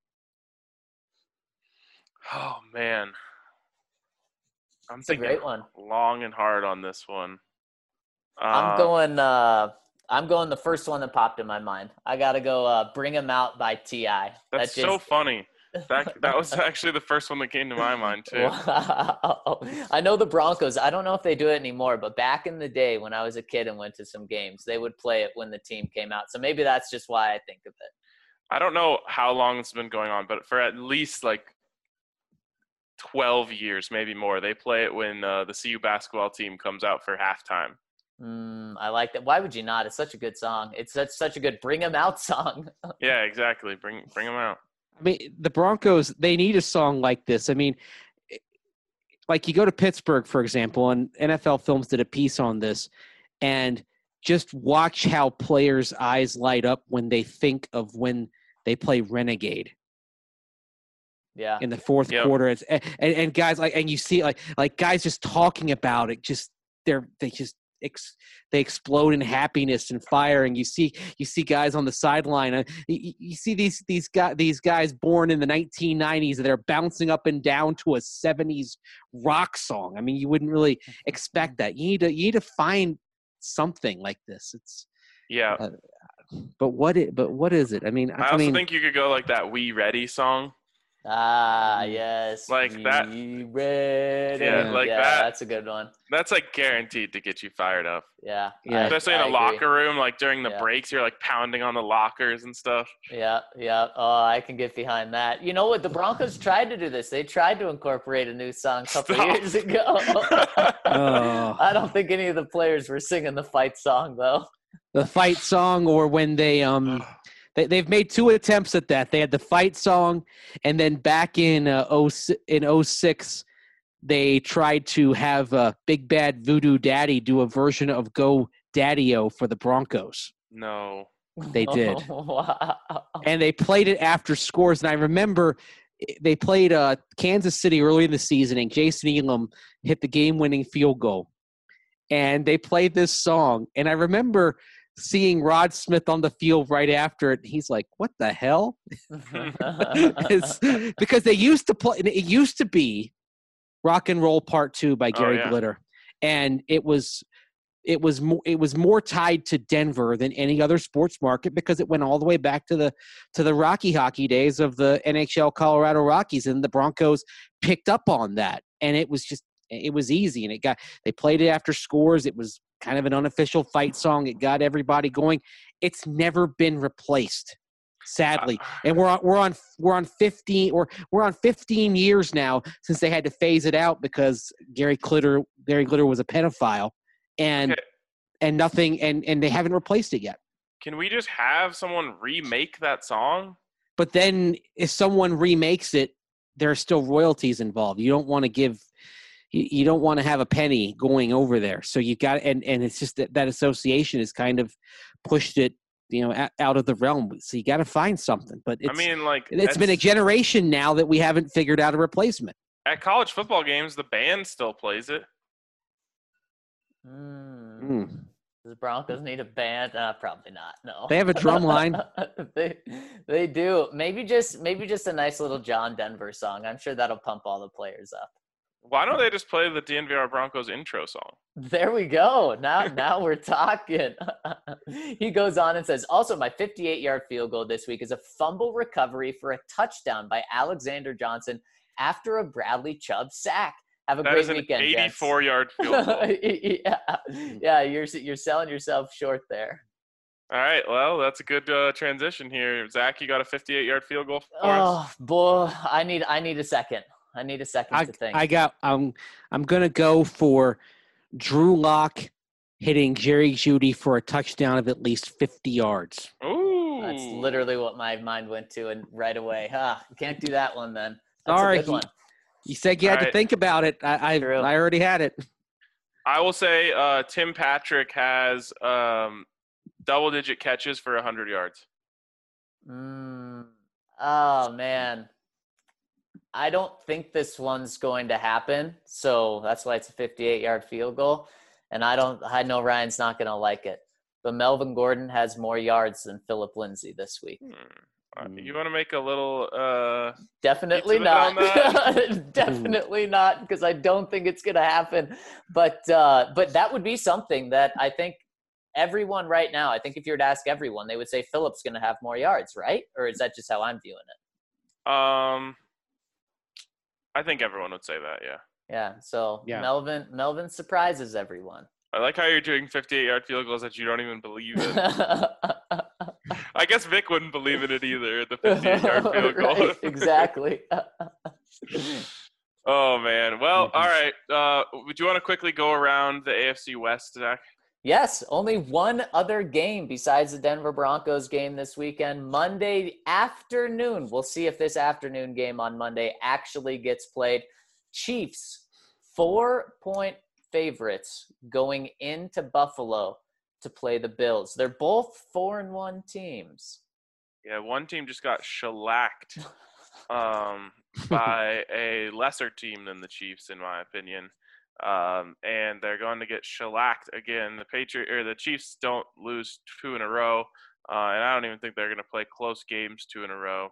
Oh, man. It's a great one. Long and hard on this one. I'm going the first one that popped in my mind. I got to go Bring 'Em Out by T.I. That's so funny. That was actually the first one that came to my mind, too. Wow. I know the Broncos. I don't know if they do it anymore, but back in the day when I was a kid and went to some games, they would play it when the team came out. So maybe that's just why I think of it. I don't know how long it's been going on, but for at least like 12 years, maybe more, they play it when the CU basketball team comes out for halftime. I like that. Why would you not? It's such a good song. It's such a good Bring 'Em Out song. Yeah, exactly. Bring them out. I mean, the Broncos, they need a song like this. I mean, like you go to Pittsburgh, for example, and NFL Films did a piece on this, and just watch how players' eyes light up when they think of when they play Renegade. Yeah. In the fourth quarter. And guys, like, and you see like guys just talking about it, just they explode in happiness and fire, and you see guys on the sideline. You see these guys born in the 1990s that are bouncing up and down to a 70s rock song. I mean, you wouldn't really expect that. You need to find something like this. It's but what is it? I mean, I also think you could go like that "We Ready" song. Yes. Like that. Ready. Yeah, like that. That's a good one. That's like guaranteed to get you fired up. Yeah. Especially in a locker room, like during the Yeah. breaks, you're like pounding on the lockers and stuff. Yeah. Oh, I can get behind that. You know what? The Broncos tried to do this. They tried to incorporate a new song a couple years ago. I don't think any of the players were singing the fight song, though. The fight song, or when they've made 2 attempts at that. They had the fight song, and then back in 06, they tried to have Big Bad Voodoo Daddy do a version of Go Daddy-O for the Broncos. No. They did. Wow. And they played it after scores. And I remember they played Kansas City early in the season, and Jason Elam hit the game-winning field goal. And they played this song. And I remember – seeing Rod Smith on the field right after it, he's like, "What the hell?" Because they used to play. It used to be "Rock and Roll Part 2" by Gary Glitter, and it was more tied to Denver than any other sports market because it went all the way back to the Rocky Hockey days of the NHL Colorado Rockies, and the Broncos picked up on that, and it was easy, and they played it after scores. It was kind of an unofficial fight song. It got everybody going. It's never been replaced, sadly. And we're on 15 years now since they had to phase it out because Gary Glitter was a pedophile, and nothing, and they haven't replaced it yet. Can we just have someone remake that song? But then if someone remakes it, there are still royalties involved. You don't want to have a penny going over there. So you got, and it's just that association has kind of pushed it, out of the realm. So you got to find something, but it's been a generation now that we haven't figured out a replacement. At college football games, the band still plays it. Does the Broncos need a band? Probably not. No. They have a drum line. They do. Maybe just a nice little John Denver song. I'm sure that'll pump all the players up. Why don't they just play the DNVR Broncos intro song? There we go. Now we're talking. He goes on and says, also, my 58-yard field goal this week is a fumble recovery for a touchdown by Alexander Johnson after a Bradley Chubb sack. Have a That great is an weekend, 84-yard field goal. yeah, you're selling yourself short there. All right, well, that's a good transition here. Zach, you got a 58-yard field goal for us? Oh boy, I need a second. I need a second to think. I'm gonna go for Drew Lock hitting Jerry Jeudy for a touchdown of at least 50 yards. Ooh, That's literally what my mind went to, and right away, can't do that one then. That's Sorry, a good one. You said you had to think about it. I already had it. I will say Tim Patrick has double-digit catches for 100 yards. Oh, man. I don't think this one's going to happen, so that's why it's a 58-yard field goal. And I know Ryan's not going to like it. But Melvin Gordon has more yards than Philip Lindsay this week. You want to make a little definitely not. Definitely not, because I don't think it's going to happen. But that would be something that I think everyone right now, I think if you were to ask everyone, they would say Philip's going to have more yards, right? Or is that just how I'm viewing it? I think everyone would say that, yeah. Yeah, so yeah. Melvin surprises everyone. I like how you're doing 58-yard field goals that you don't even believe in. I guess Vic wouldn't believe in it either, the 58-yard field goal. Right, exactly. Oh, man. Well, all right. Would you want to quickly go around the AFC West, Zach? Yes, only one other game besides the Denver Broncos game this weekend, Monday afternoon. We'll see if this afternoon game on Monday actually gets played. Chiefs, 4-point favorites going into Buffalo to play the Bills. They're both 4-1 teams. Yeah, one team just got shellacked by a lesser team than the Chiefs, in my opinion. And they're going to get shellacked again. The Chiefs don't lose 2 in a row, and I don't even think they're going to play close games 2 in a row.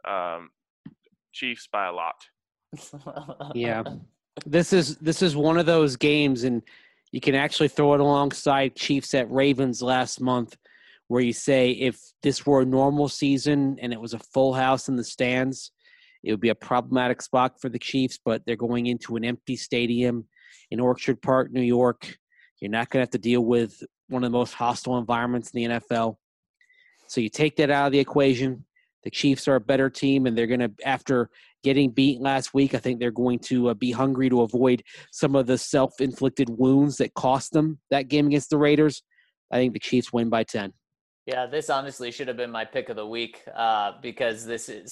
Chiefs by a lot. Yeah, this is one of those games, and you can actually throw it alongside Chiefs at Ravens last month, where you say if this were a normal season and it was a full house in the stands, it would be a problematic spot for the Chiefs. But they're going into an empty stadium in Orchard Park, New York. You're not going to have to deal with one of the most hostile environments in the NFL. So you take that out of the equation. The Chiefs are a better team, and they're going to, after getting beaten last week, I think they're going to be hungry to avoid some of the self-inflicted wounds that cost them that game against the Raiders. I think the Chiefs win by 10. Yeah, this honestly should have been my pick of the week because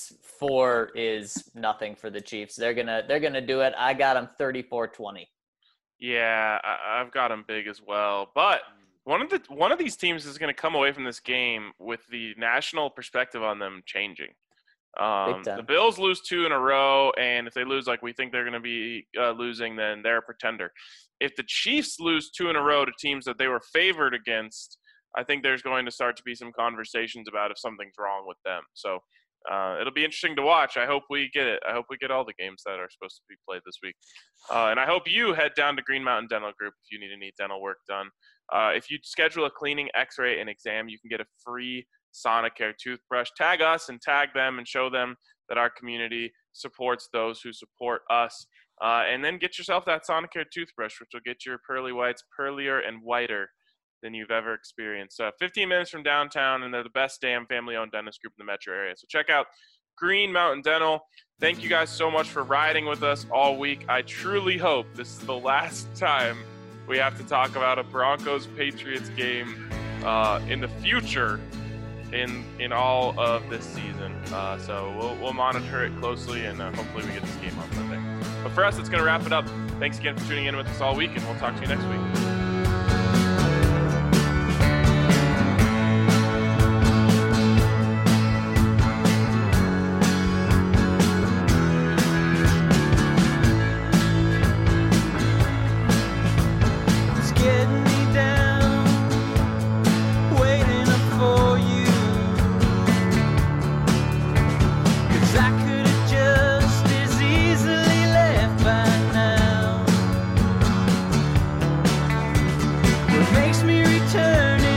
4 is nothing for the Chiefs. They're gonna do it. I got them 34-20. Yeah, I've got them big as well. But one of these teams is going to come away from this game with the national perspective on them changing. The Bills lose 2 in a row, and if they lose like we think they're going to be losing, then they're a pretender. If the Chiefs lose 2 in a row to teams that they were favored against, I think there's going to start to be some conversations about if something's wrong with them. So it'll be interesting to watch. I hope we get it. I hope we get all the games that are supposed to be played this week. And I hope you head down to Green Mountain Dental Group if you need any dental work done. If you schedule a cleaning, x-ray, and exam, you can get a free Sonicare toothbrush. Tag us and tag them and show them that our community supports those who support us. And then get yourself that Sonicare toothbrush, which will get your pearly whites pearlier and whiter than you've ever experienced. 15 minutes from downtown, and they're the best damn family-owned dentist group in the metro area. So check out Green Mountain Dental. Thank you guys so much for riding with us all week. I truly hope this is the last time we have to talk about a Broncos-Patriots game in the future in all of this season. So we'll monitor it closely, and hopefully we get this game on Sunday. But for us, that's going to wrap it up. Thanks again for tuning in with us all week, and we'll talk to you next week. Makes me return